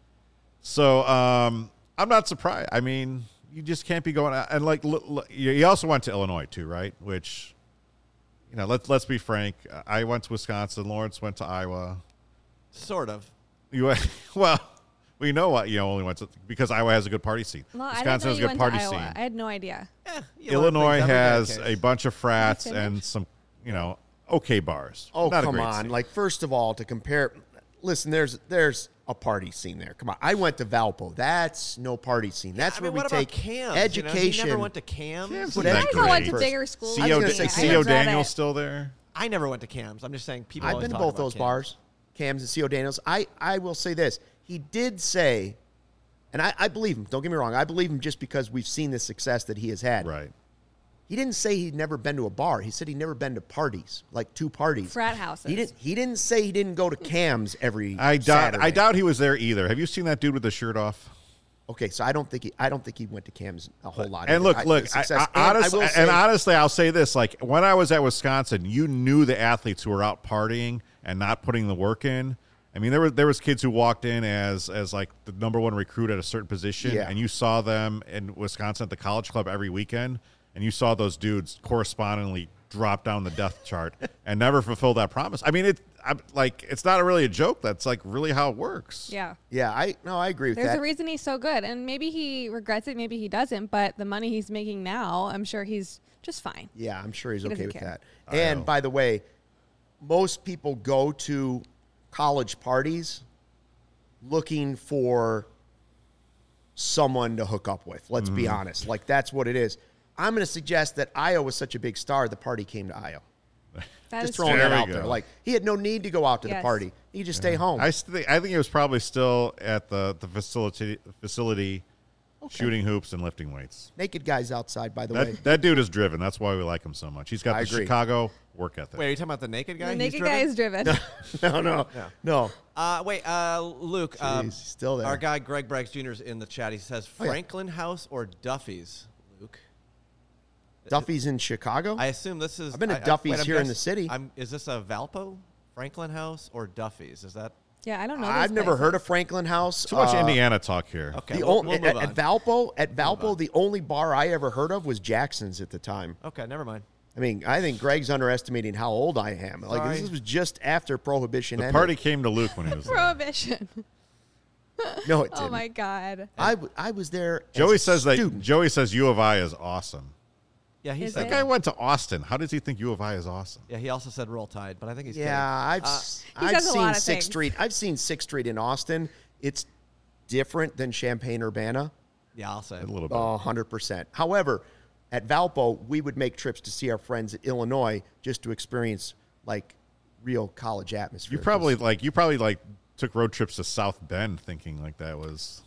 So I'm not surprised. I mean, you just can't be going out. And like, you also went to Illinois too, right? Which, let's be frank. I went to Wisconsin. Lawrence went to Iowa. Sort of. You went, well, we know what only went to, because Iowa has a good party scene. Well, Wisconsin has a good party scene. I had no idea. You learn Illinois things every day, has Case. a bunch of frats Can I finish? and some okay bars. Oh, Not come on. Scene. Like, first of all, to compare, listen, there's a party scene there. Come on. I went to Valpo. That's no party scene. That's where we take Cams? education. He never went to Cams. Wasn't I that go went great? to bigger schools. I was gonna say, C.O. Daniel's still there? I never went to Cams. I'm just saying people I've always been to talk both about those Cams. bars, Cams and C.O. Daniels. I will say this. He did say, and I believe him. Don't get me wrong. I believe him just because we've seen the success that he has had. Right. He didn't say he'd never been to a bar. He said he'd never been to parties, like 2 parties. Frat houses. He didn't say he didn't go to Cams every I Saturday. doubt he was there either. Have you seen that dude with the shirt off? Okay, so I don't think he went to Cams a whole lot. And either. honestly, I'll say this: like when I was at Wisconsin, you knew the athletes who were out partying and not putting the work in. I mean, there was kids who walked in as like the number 1 recruit at a certain position, and you saw them in Wisconsin at the college club every weekend, and you saw those dudes correspondingly drop down the depth chart and never fulfill that promise. I mean, it's not really a joke. That's like really how it works. Yeah. Yeah, I agree with There's that. a reason he's so good, and maybe he regrets it, maybe he doesn't. But the money he's making now, I'm sure he's just fine. Yeah, I'm sure he's okay doesn't with care. that. And by the way, most people go to college parties looking for someone to hook up with. Let's be honest. Like, that's what it is. I'm going to suggest that Io was such a big star, the party came to Io. That Just is throwing true. that There we out go. there. Like, he had no need to go out to the Yes. party. He could just stay home. I think it was probably still at the facility shooting hoops and lifting weights. Naked guys outside, by the way. That dude is driven. That's why we like him so much. He's got I the agree. Chicago work ethic. Wait, are you talking about the naked guy? The He's naked guy is driven. No. Luke. Jeez, he's still there. Our guy Greg Braggs Jr. is in the chat. He says Oh, yeah. Franklin House or Duffy's. Luke. Duffy's in Chicago? I assume this is. I've been to Duffy's here in the city. Is this a Valpo, Franklin House, or Duffy's? Is that Yeah, I don't know. I've never heard of Franklin House. Too much Indiana talk here. okay? The We'll only, move on. at Valpo, the only bar I ever heard of was Jackson's at the time. Okay, never mind. I mean, I think Greg's underestimating how old I am. Like, Sorry. this was just after Prohibition The ended. party came to Luke when he was there. Prohibition. No, it didn't. Oh my God. I was there. Joey as a says student. Joey says U of I is awesome. Yeah, he Is said it? That guy went to Austin. How does he think U of I is awesome? Yeah, he also said Roll Tide, but I think he's Yeah, kidding. I've says a lot seen of Sixth things. Street. I've seen Sixth Street in Austin. It's different than Champaign Urbana. Yeah, I'll say A it. little bit. 100%. However, at Valpo, we would make trips to see our friends at Illinois just to experience like real college atmosphere. You probably took road trips to South Bend thinking like that was.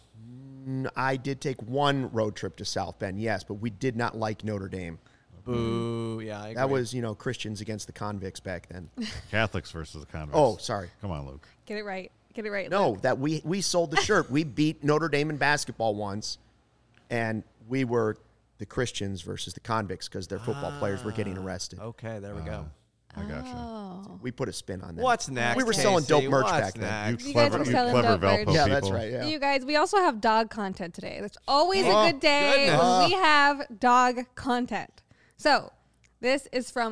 I did take one road trip to South Bend, yes, but we did not like Notre Dame. Boo. Yeah, I agree. That was, Christians against the convicts back then. Catholics versus the convicts. Oh, sorry. Come on, Luke. Get it right. Get it right. No, Luke. that we sold the shirt. We beat Notre Dame in basketball once, and we were the Christians versus the convicts because their football players were getting arrested. Okay, there we go. I got you. Oh. We put a spin on that. What's next? We were selling Casey? dope merch What's back then. next? You You guys clever, were you selling clever dope merch. Valpo Yeah, people. that's right. Yeah. You guys, we also have dog content today. That's always Oh, a good day goodness. when we have dog content. So, this is from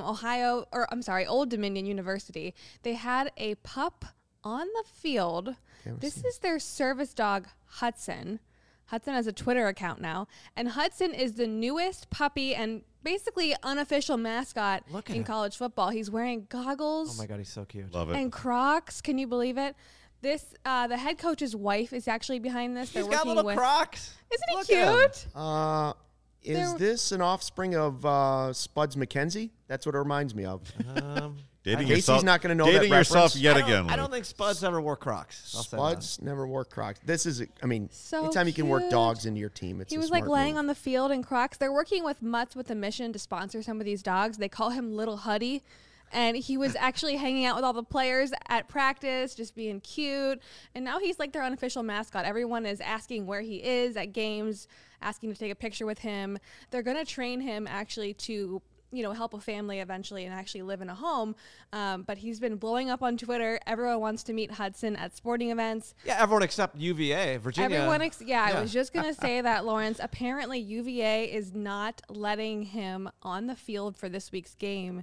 Old Dominion University. They had a pup on the field. This is their service dog, Hudson. Hudson has a Twitter account now. And Hudson is the newest puppy and basically unofficial mascot Look at in him. college football. He's wearing goggles Oh my God, he's so cute. Love it. and Crocs. Can you believe it? This the head coach's wife is actually behind this. He's They're got working little with. Crocs. Isn't he Look at him. cute? Is There- this an offspring of Spuds McKenzie? That's what it reminds me of. Dating Casey's yourself, not gonna know dating that yourself reference. yet I don't- again. I don't Luke. think Spuds ever wore Crocs. I'll say that. Spuds never wore Crocs. This is, So anytime you can work cute. dogs into your team, it's He a was like smart laying move. on the field in Crocs. They're working with Mutts with a mission to sponsor some of these dogs. They call him Little Huddy. And he was actually hanging out with all the players at practice, just being cute. And now he's like their unofficial mascot. Everyone is asking where he is at games, asking to take a picture with him. They're going to train him actually to, help a family eventually and actually live in a home. But he's been blowing up on Twitter. Everyone wants to meet Hudson at sporting events. Yeah, everyone except UVA, Virginia. I was just going to say that, Lawrence. Apparently, UVA is not letting him on the field for this week's game.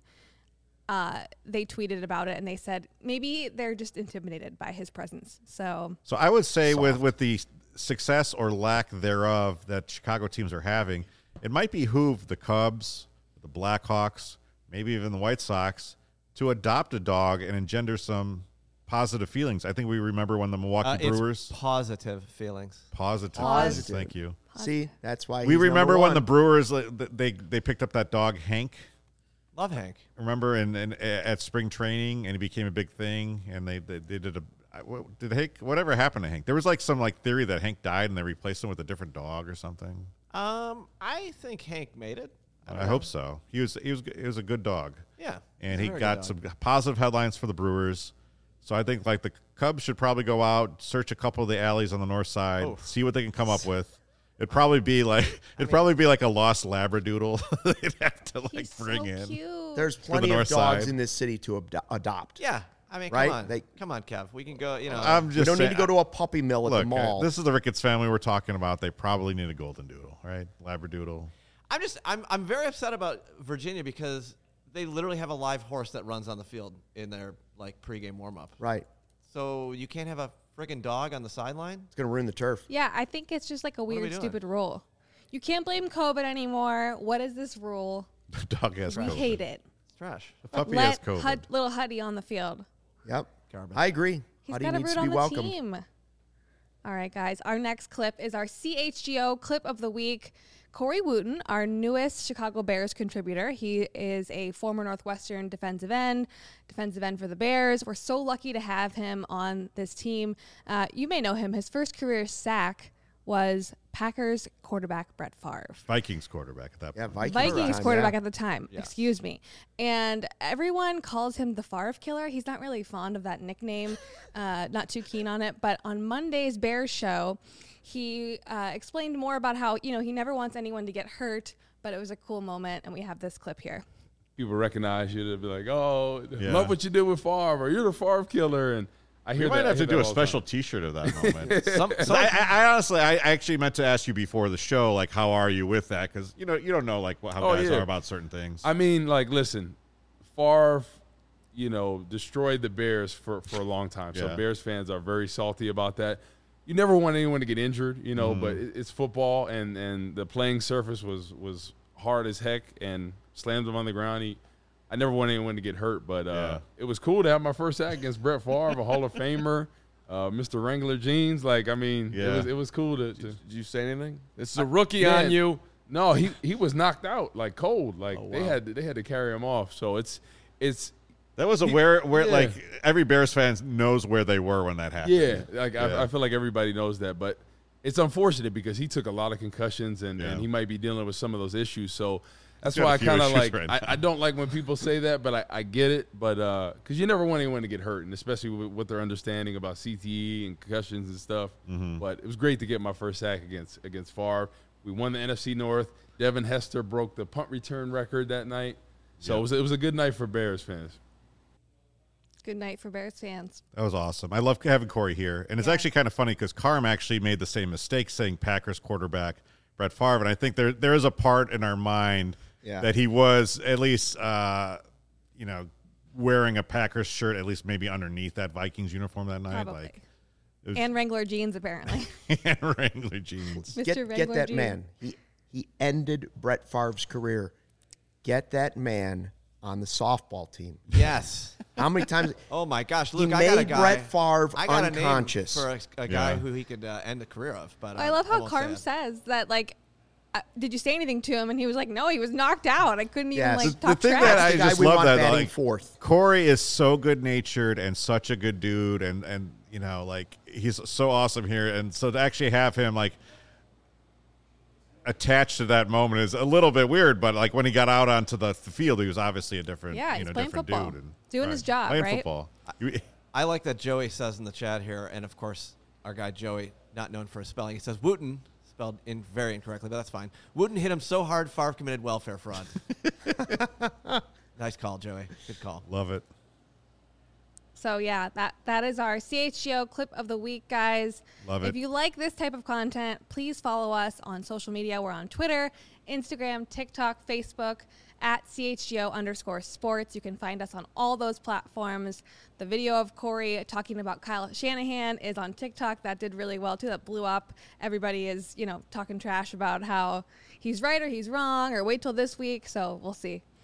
They tweeted about it and they said maybe they're just intimidated by his presence. So I would say with the success or lack thereof that Chicago teams are having, it might behoove the Cubs, the Blackhawks, maybe even the White Sox, to adopt a dog and engender some positive feelings. I think we remember when the Milwaukee Brewers. It's positive feelings. Positive. Thank you. See, that's why we remember when the Brewers they picked up that dog Hank. Love Hank. Remember at spring training, and he became a big thing, and they did whatever happened to Hank? There was some theory that Hank died and they replaced him with a different dog or something. I think Hank made it. I hope so. He was a good dog. Yeah. And he got some positive headlines for the Brewers. So I think the Cubs should probably go out, search a couple of the alleys on the north side, see what they can come up with. It'd probably be like a lost Labradoodle. They'd have to bring in. Cute. There's plenty of dogs in this city to adopt. Yeah. I mean, right? Come on, Kev. We can go, we don't need to go to a puppy mill at the mall. This is the Ricketts family we're talking about. They probably need a golden doodle, right? Labradoodle. I'm very upset about Virginia because they literally have a live horse that runs on the field in their pregame warm up. Right. So you can't have a friggin' dog on the sideline? It's going to ruin the turf. Yeah, I think it's just a weird, stupid rule. You can't blame COVID anymore. What is this rule? The dog has COVID. We hate it. It's trash. The puppy has COVID. Little Huddy on the field. Yep. Garbage. I agree. He's got a root on the team. All right, guys. Our next clip is our CHGO clip of the week. Corey Wootton, our newest Chicago Bears contributor. He is a former Northwestern defensive end for the Bears. We're so lucky to have him on this team. You may know him. His first career sack was Packers quarterback Brett Favre. Vikings quarterback at that point. Yeah, Vikings quarterback at the time. Yes. Excuse me. And everyone calls him the Favre killer. He's not really fond of that nickname, not too keen on it. But on Monday's Bears show, he explained more about how, he never wants anyone to get hurt, but it was a cool moment, and we have this clip here. People recognize you. They'll be like, love what you did with Favre, or you're the Favre killer, and I hear we might have to do a special T-shirt of that moment. I honestly, I actually meant to ask you before the show, how are you with that? Because you don't know how guys are about certain things. I mean, listen, Favre, destroyed the Bears for a long time. So Bears fans are very salty about that. You never want anyone to get injured, but it's football, and the playing surface was hard as heck and slammed him on the ground. I never want anyone to get hurt, but it was cool to have my first sack against Brett Favre, a Hall of Famer, Mr. Wrangler jeans. It was cool to. Did you say anything? This is a rookie on you. No, he was knocked out cold. They had to carry him off. So it's. That was where every Bears fan knows where they were when that happened. Yeah, I feel like everybody knows that, but it's unfortunate because he took a lot of concussions and he might be dealing with some of those issues. So. That's why I kind of I don't like when people say that, but I get it. But because you never want anyone to get hurt, and especially with what their understanding about CTE and concussions and stuff. Mm-hmm. But it was great to get my first sack against Favre. We won the NFC North. Devin Hester broke the punt return record that night. So it was a good night for Bears fans. Good night for Bears fans. That was awesome. I love having Corey here. And it's actually kind of funny because Carm actually made the same mistake saying Packers quarterback Brett Favre. And I think there is a part in our mind that he was at least, wearing a Packers shirt, at least maybe underneath that Vikings uniform that night. Probably. And Wrangler jeans, apparently. And Wrangler jeans. Get that jeans. Man. He ended Brett Favre's career. Get that man on the softball team. Yes. How many times? Oh, my gosh. Luke, I got a guy. Brett Favre unconscious. A name for a guy who he could end the career of. But I love how Carm says that, did you say anything to him? And he was like, no, he was knocked out. I couldn't even talk the thing trash. that I just love that fourth. Corey is so good natured and such a good dude, and he's so awesome here, and so to actually have him attached to that moment is a little bit weird. But when he got out onto the field, he was obviously a different, he's playing different football. dude, and doing his job, playing right? Football. I like that Joey says in the chat here, and of course our guy Joey, not known for his spelling, he says Wooten. Spelled very incorrectly, but that's fine. Wooten hit him so hard, Favre committed welfare fraud. Nice call, Joey. Good call. Love it. So, that is our CHGO clip of the week, guys. Love it. If you like this type of content, please follow us on social media. We're on Twitter, Instagram, TikTok, Facebook, at CHGO_sports. You can find us on all those platforms. The video of Corey talking about Kyle Shanahan is on TikTok. That did really well, too. That blew up. Everybody is, talking trash about how he's right or he's wrong or wait till this week. So we'll see.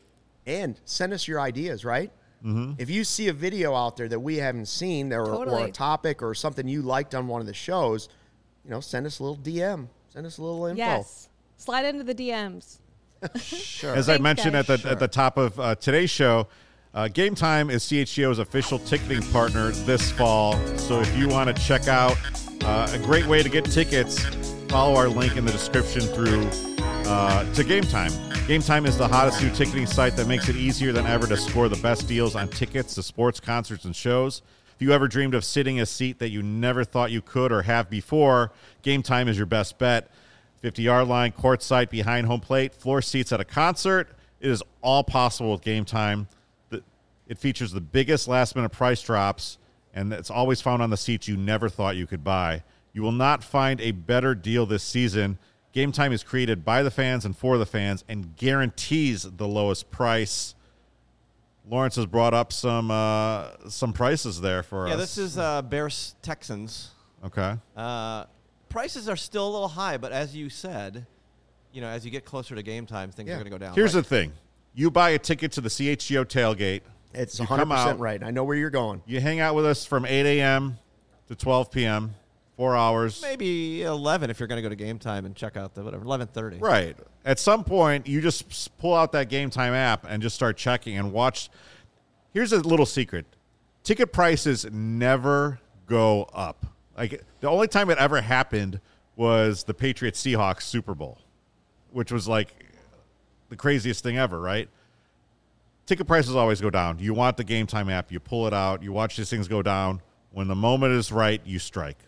And send us your ideas, right? Mm-hmm. If you see a video out there that we haven't seen or a topic or something you liked on one of the shows, send us a little DM. Send us a little info. Yes. Slide into the DMs. Sure. As I mentioned at the top of today's show, Game Time is CHGO's official ticketing partner this fall. So if you want to check out a great way to get tickets, follow our link in the description through to Game Time. Game Time is the hottest new ticketing site that makes it easier than ever to score the best deals on tickets to sports, concerts, and shows. If you ever dreamed of sitting a seat that you never thought you could or have before, Game Time is your best bet. 50-yard line, courtside, behind home plate, floor seats at a concert. It is all possible with Game Time. It features the biggest last-minute price drops, and it's always found on the seats you never thought you could buy. You will not find a better deal this season. Game Time is created by the fans and for the fans and guarantees the lowest price. Lawrence has brought up some prices there for us. Yeah, this is Bears Texans. Okay. Prices are still a little high, but as you said, as you get closer to game time, things are going to go down. Here's the thing. You buy a ticket to the CHGO tailgate. It's 100% right. I know where you're going. You hang out with us from 8 a.m. to 12 p.m., 4 hours. Maybe 11 if you're going to go to Game Time and check out the 11:30. Right. At some point, you just pull out that Game Time app and just start checking and watch. Here's a little secret. Ticket prices never go up. Like, the only time it ever happened was the Patriots-Seahawks Super Bowl, which was like the craziest thing ever, right? Ticket prices always go down. You want the Game Time app. You pull it out. You watch these things go down. When the moment is right, you strike.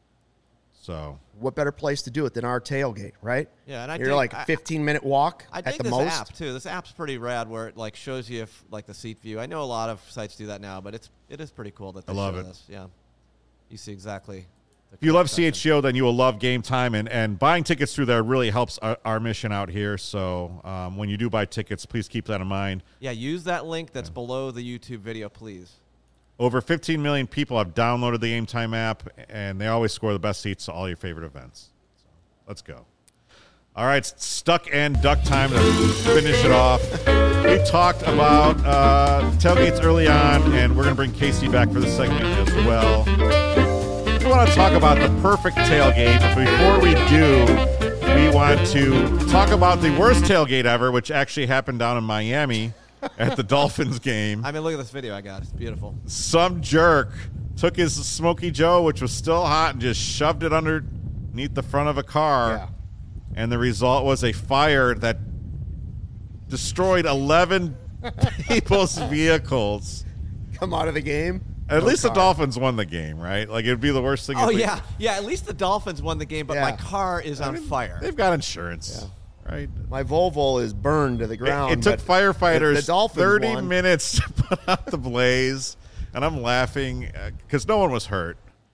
So, what better place to do it than our tailgate, right? Yeah, and you're like a 15-minute walk at the most. This app too. This app's pretty rad, where it like shows you the seat view. I know a lot of sites do that now, but it is pretty cool that they show this. Yeah, you see exactly. If you love CHGO, then you will love Game Time, and buying tickets through there really helps our mission out here. So when you do buy tickets, please keep that in mind. Yeah, use that link that's below the YouTube video, please. Over 15 million people have downloaded the Game Time app, and they always score the best seats to all your favorite events. So let's go. All right, Stuck and Duck time to finish it off. We talked about tailgates early on, and we're going to bring Casey back for this segment as well. We want to talk about the perfect tailgate, but before we do, we want to talk about the worst tailgate ever, which actually happened down in Miami at the Dolphins game. I mean, look at this video I got. It's beautiful. Some jerk took his Smokey Joe, which was still hot, and just shoved it underneath the front of a car. Yeah. And the result was a fire that destroyed 11 people's vehicles. Come out of the game. At least the Dolphins won the game, right? Like, it'd be the worst thing. Oh, yeah. Yeah, at least the Dolphins won the game, but my car is on fire. They've got insurance. Yeah. Right. My Volvo is burned to the ground. It took firefighters 30 minutes to put out the blaze, and I'm laughing because no one was hurt.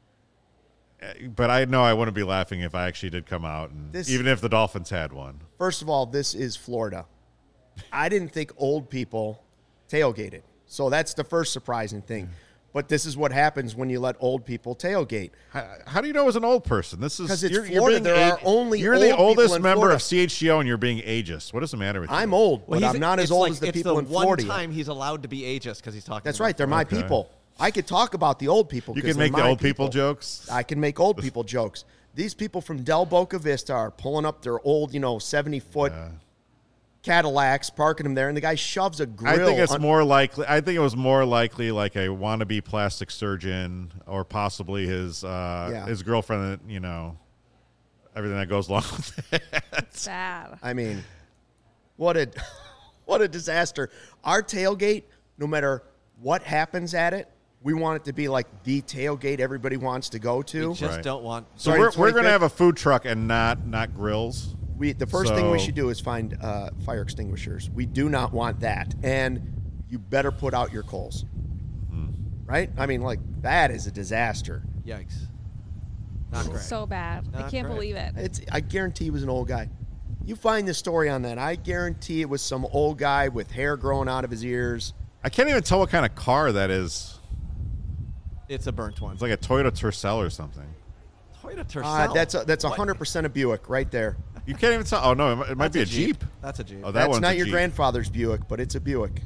But I know I wouldn't be laughing if I actually did come out, and even if the Dolphins had one. First of all, this is Florida. I didn't think old people tailgated, so that's the first surprising thing. But this is what happens when you let old people tailgate. How do you know it was an old person? This is because it's Florida. There are only you're the oldest member of CHGO, and you're being ageist. What is the matter with you? I'm old, but I'm not as old as the people in Florida. It's the one time he's allowed to be ageist because he's talking. That's right. They're my people. I could talk about the old people. You can make the old people jokes. I can make old people jokes. These people from Del Boca Vista are pulling up their old, 70-foot Cadillacs, parking them there, and the guy shoves a grill. I think it's more likely. I think it was more likely like a wannabe plastic surgeon, or possibly his girlfriend. Everything that goes along with it. Sad. I mean, what a disaster. Our tailgate, no matter what happens at it, we want it to be like the tailgate everybody wants to go to. We just don't want. So we're going to have a food truck and not grills. The first thing we should do is find fire extinguishers. We do not want that. And you better put out your coals. Right? I mean, that is a disaster. Yikes. Not great. So bad. I can't believe it. I guarantee he was an old guy. You find the story on that. I guarantee it was some old guy with hair growing out of his ears. I can't even tell what kind of car that is. It's a burnt one. It's like a Toyota Tercel or something. Toyota Tercel? That's 100% a Buick right there. You can't even tell. Oh, no, it might be a Jeep. That's a Jeep. Oh, that's not your grandfather's Buick, but it's a Buick.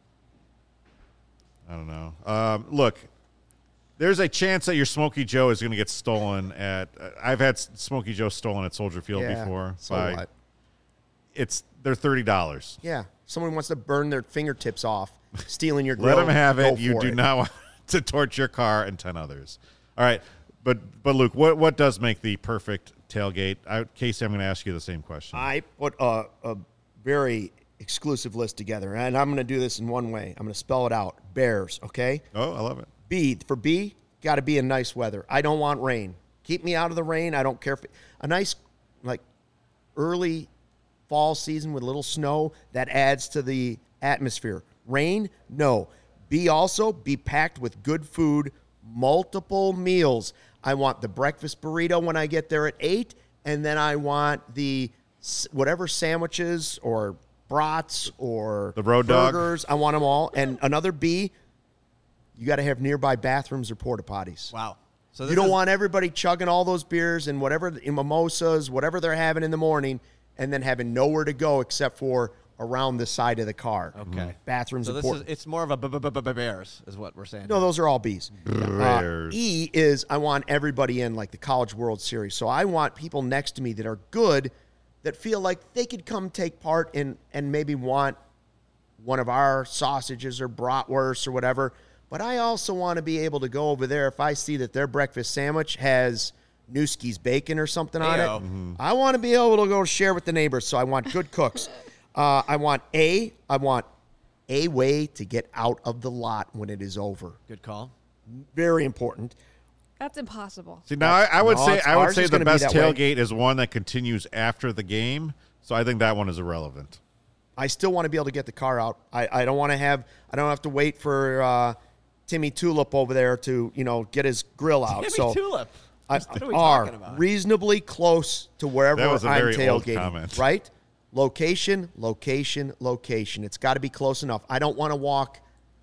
I don't know. Look, there's a chance that your Smokey Joe is going to get stolen at. I've had Smokey Joe stolen at Soldier Field before. So what? They're $30. Yeah, someone wants to burn their fingertips off, stealing your grill. Let them have it. You do not want to torch your car and 10 others. All right, but Luke, what does make the perfect tailgate? Casey, I'm going to ask you the same question. I put a very exclusive list together, and I'm going to do this in one way. I'm going to spell it out. Bears, okay? Oh, I love it. B, for B, got to be in nice weather. I don't want rain. Keep me out of the rain. I don't care if a nice, like, early fall season with a little snow, that adds to the atmosphere. Rain, no. B, also be packed with good food, multiple meals. I want the breakfast burrito when I get there at 8, and then I want the whatever sandwiches or brats or the road burgers. Dog. I want them all. And another B, you got to have nearby bathrooms or porta potties. Wow. So you don't want everybody chugging all those beers and whatever, mimosas, whatever they're having in the morning, and then having nowhere to go except for around the side of the car. Okay. Bathrooms. So it's more of a Bears is what we're saying. No, those are all B's. Bears. E is I want everybody in like the College World Series. So I want people next to me that are good, that feel like they could come take part in and maybe want one of our sausages or bratwurst or whatever. But I also want to be able to go over there if I see that their breakfast sandwich has Newski's bacon or something on it. Mm-hmm. I want to be able to go share with the neighbors, so I want good cooks. I want a way to get out of the lot when it is over. Good call. Very important. That's impossible. See, now I would say the best tailgate is one that continues after the game. So I think that one is irrelevant. I still want to be able to get the car out. I don't have to wait for Timmy Tulip over there to get his grill out. Timmy Tulip. What are we talking about? Reasonably close to wherever I'm tailgating. Right? Location. It's got to be close enough. I don't want to walk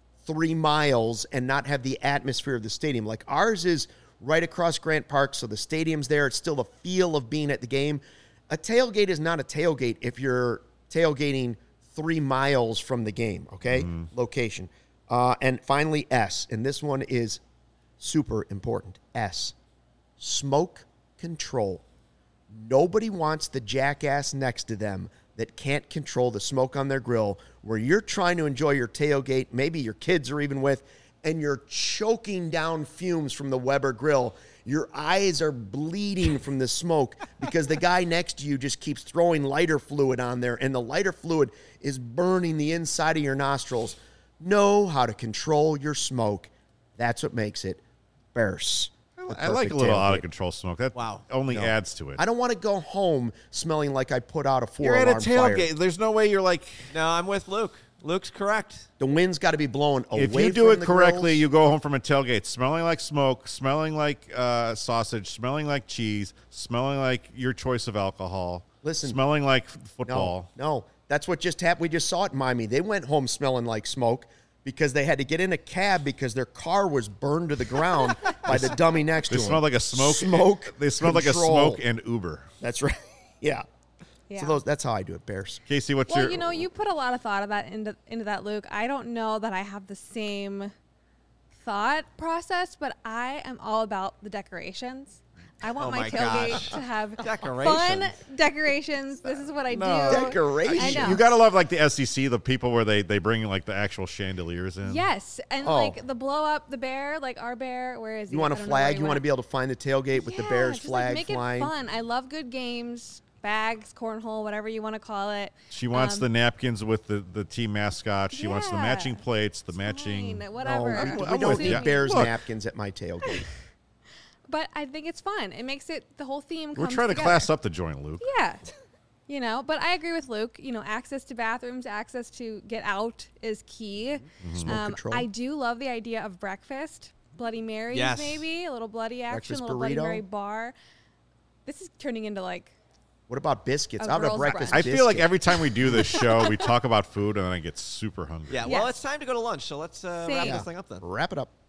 3 miles and not have the atmosphere of the stadium. Like ours is right across Grant Park, so the stadium's there. It's still the feel of being at the game. A tailgate is not a tailgate if you're tailgating 3 miles from the game, okay? Location. And finally, S, and this one is super important. S, smoke control. Nobody wants the jackass next to them that can't control the smoke on their grill where you're trying to enjoy your tailgate, maybe your kids are even with, and you're choking down fumes from the Weber grill. Your eyes are bleeding from the smoke because the guy next to you just keeps throwing lighter fluid on there, and the lighter fluid is burning the inside of your nostrils. Know how to control your smoke. That's what makes it Bears. I like a little out-of-control smoke. That only adds to it. I don't want to go home smelling like I put out a 4-alarm fire. You're at a tailgate. There's no way you're like... No, I'm with Luke. Luke's correct. The wind's got to be blowing away from the If you do it correctly, grills. you go home from a tailgate smelling like smoke, smelling like sausage, smelling like cheese, smelling like your choice of alcohol, smelling like football. No, that's what just happened. We just saw it in Miami. They went home smelling like smoke because they had to get in a cab because their car was burned to the ground by the dummy next to them. They smelled like a smoke. They smelled like a smoke and Uber. That's right. Yeah. So that's how I do it, Bears. Casey, what's your... Well, you put a lot of thought of that into that, Luke. I don't know that I have the same thought process, but I am all about the decorations. I want my tailgate to have fun decorations. This is what I do. Decorations. I know. You gotta love like the SEC, the people where they bring like the actual chandeliers in. Yes, and like the blow up the bear, like our bear. Where is he? You want a flag? You want to be able to find the tailgate with the Bears flag make flying. It fun. I love good games, bags, cornhole, whatever you want to call it. She wants the napkins with the team mascot. She wants the matching plates, the matching. Whatever. No, we don't need Bears napkins at my tailgate. But I think it's fun. It makes it the whole theme. We're trying to class up the joint, Luke. Yeah. But I agree with Luke. Access to bathrooms, access to get out is key. Smoke control. I do love the idea of breakfast, Bloody Marys, maybe a little bloody action, a little burrito. Bloody Mary bar. This is turning into like. What about biscuits? How about breakfast? I feel like every time we do this show, we talk about food, and then I get super hungry. Yeah. Well, it's time to go to lunch, so let's wrap this thing up then. Wrap it up.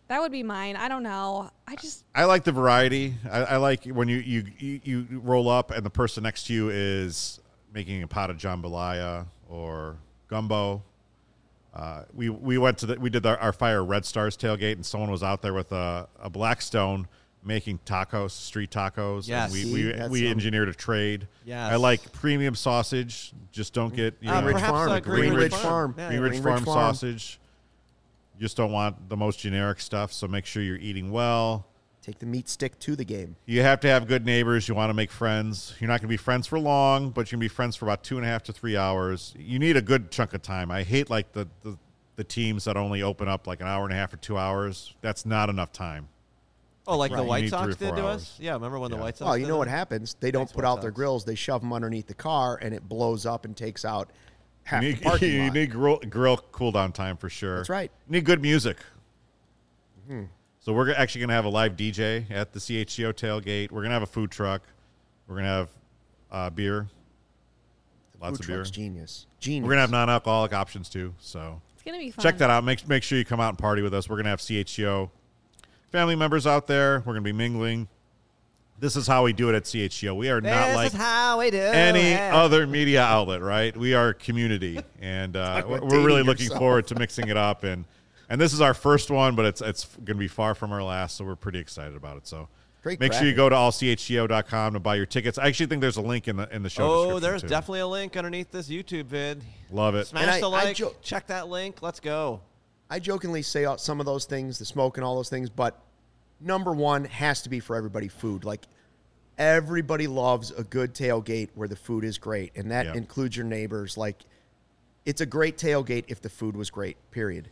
That would be mine. I don't know. I like the variety. I like when you roll up and the person next to you is making a pot of jambalaya or gumbo. We did our Fire Red Stars tailgate, and someone was out there with a Blackstone making tacos, street tacos. Yes. And we engineered a trade. Yes. I like premium sausage. Just don't get Greenridge Farm. Greenridge Farm. Yeah, Greenridge Farm sausage. You just don't want the most generic stuff, so make sure you're eating well. Take the meat stick to the game. You have to have good neighbors. You want to make friends. You're not going to be friends for long, but you can be friends for about 2.5 to 3 hours. You need a good chunk of time. I hate like the teams that only open up like an hour and a half or 2 hours. That's not enough time. Oh, like the White Sox did to us? Yeah, remember when the White Sox did you know what happens? They don't put out their grills. They shove them underneath the car, and it blows up and takes out half the parking lot. You need grill cool-down time for sure. That's right. You need good music. Mm-hmm. So we're actually going to have a live DJ at the CHGO tailgate. We're going to have a food truck. We're going to have beer. Lots of beer. Genius. We're going to have non-alcoholic options too. So it's going to be fun. Check that out. Make sure you come out and party with us. We're going to have CHGO family members out there. We're going to be mingling. This is how we do it at CHGO. We are not like any other media outlet, right? We are community, and we're really looking forward to mixing it up. And this is our first one, but it's going to be far from our last, so we're pretty excited about it. So make sure you go to allchgo.com to buy your tickets. I actually think there's a link in the show description. Oh, there's definitely a link underneath this YouTube vid. Love it. Smash the like. Check that link. Let's go. I jokingly say some of those things, the smoke and all those things, but number one has to be for everybody food. Like, everybody loves a good tailgate where the food is great, and that includes your neighbors. Like, it's a great tailgate if the food was great, period.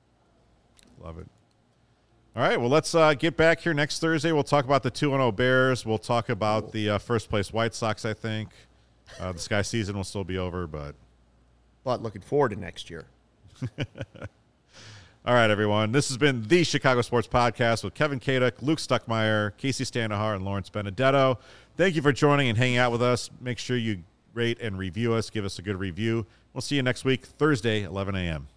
Love it. All right, well, let's get back here next Thursday. We'll talk about the 2-0 Bears. We'll talk about the first-place White Sox, I think. The Sky season will still be over, but looking forward to next year. All right, everyone. This has been the Chicago Sports Podcast with Kevin Kaduk, Luke Stuckmeyer, Casey Standahar, and Lawrence Benedetto. Thank you for joining and hanging out with us. Make sure you rate and review us. Give us a good review. We'll see you next week, Thursday, 11 a.m.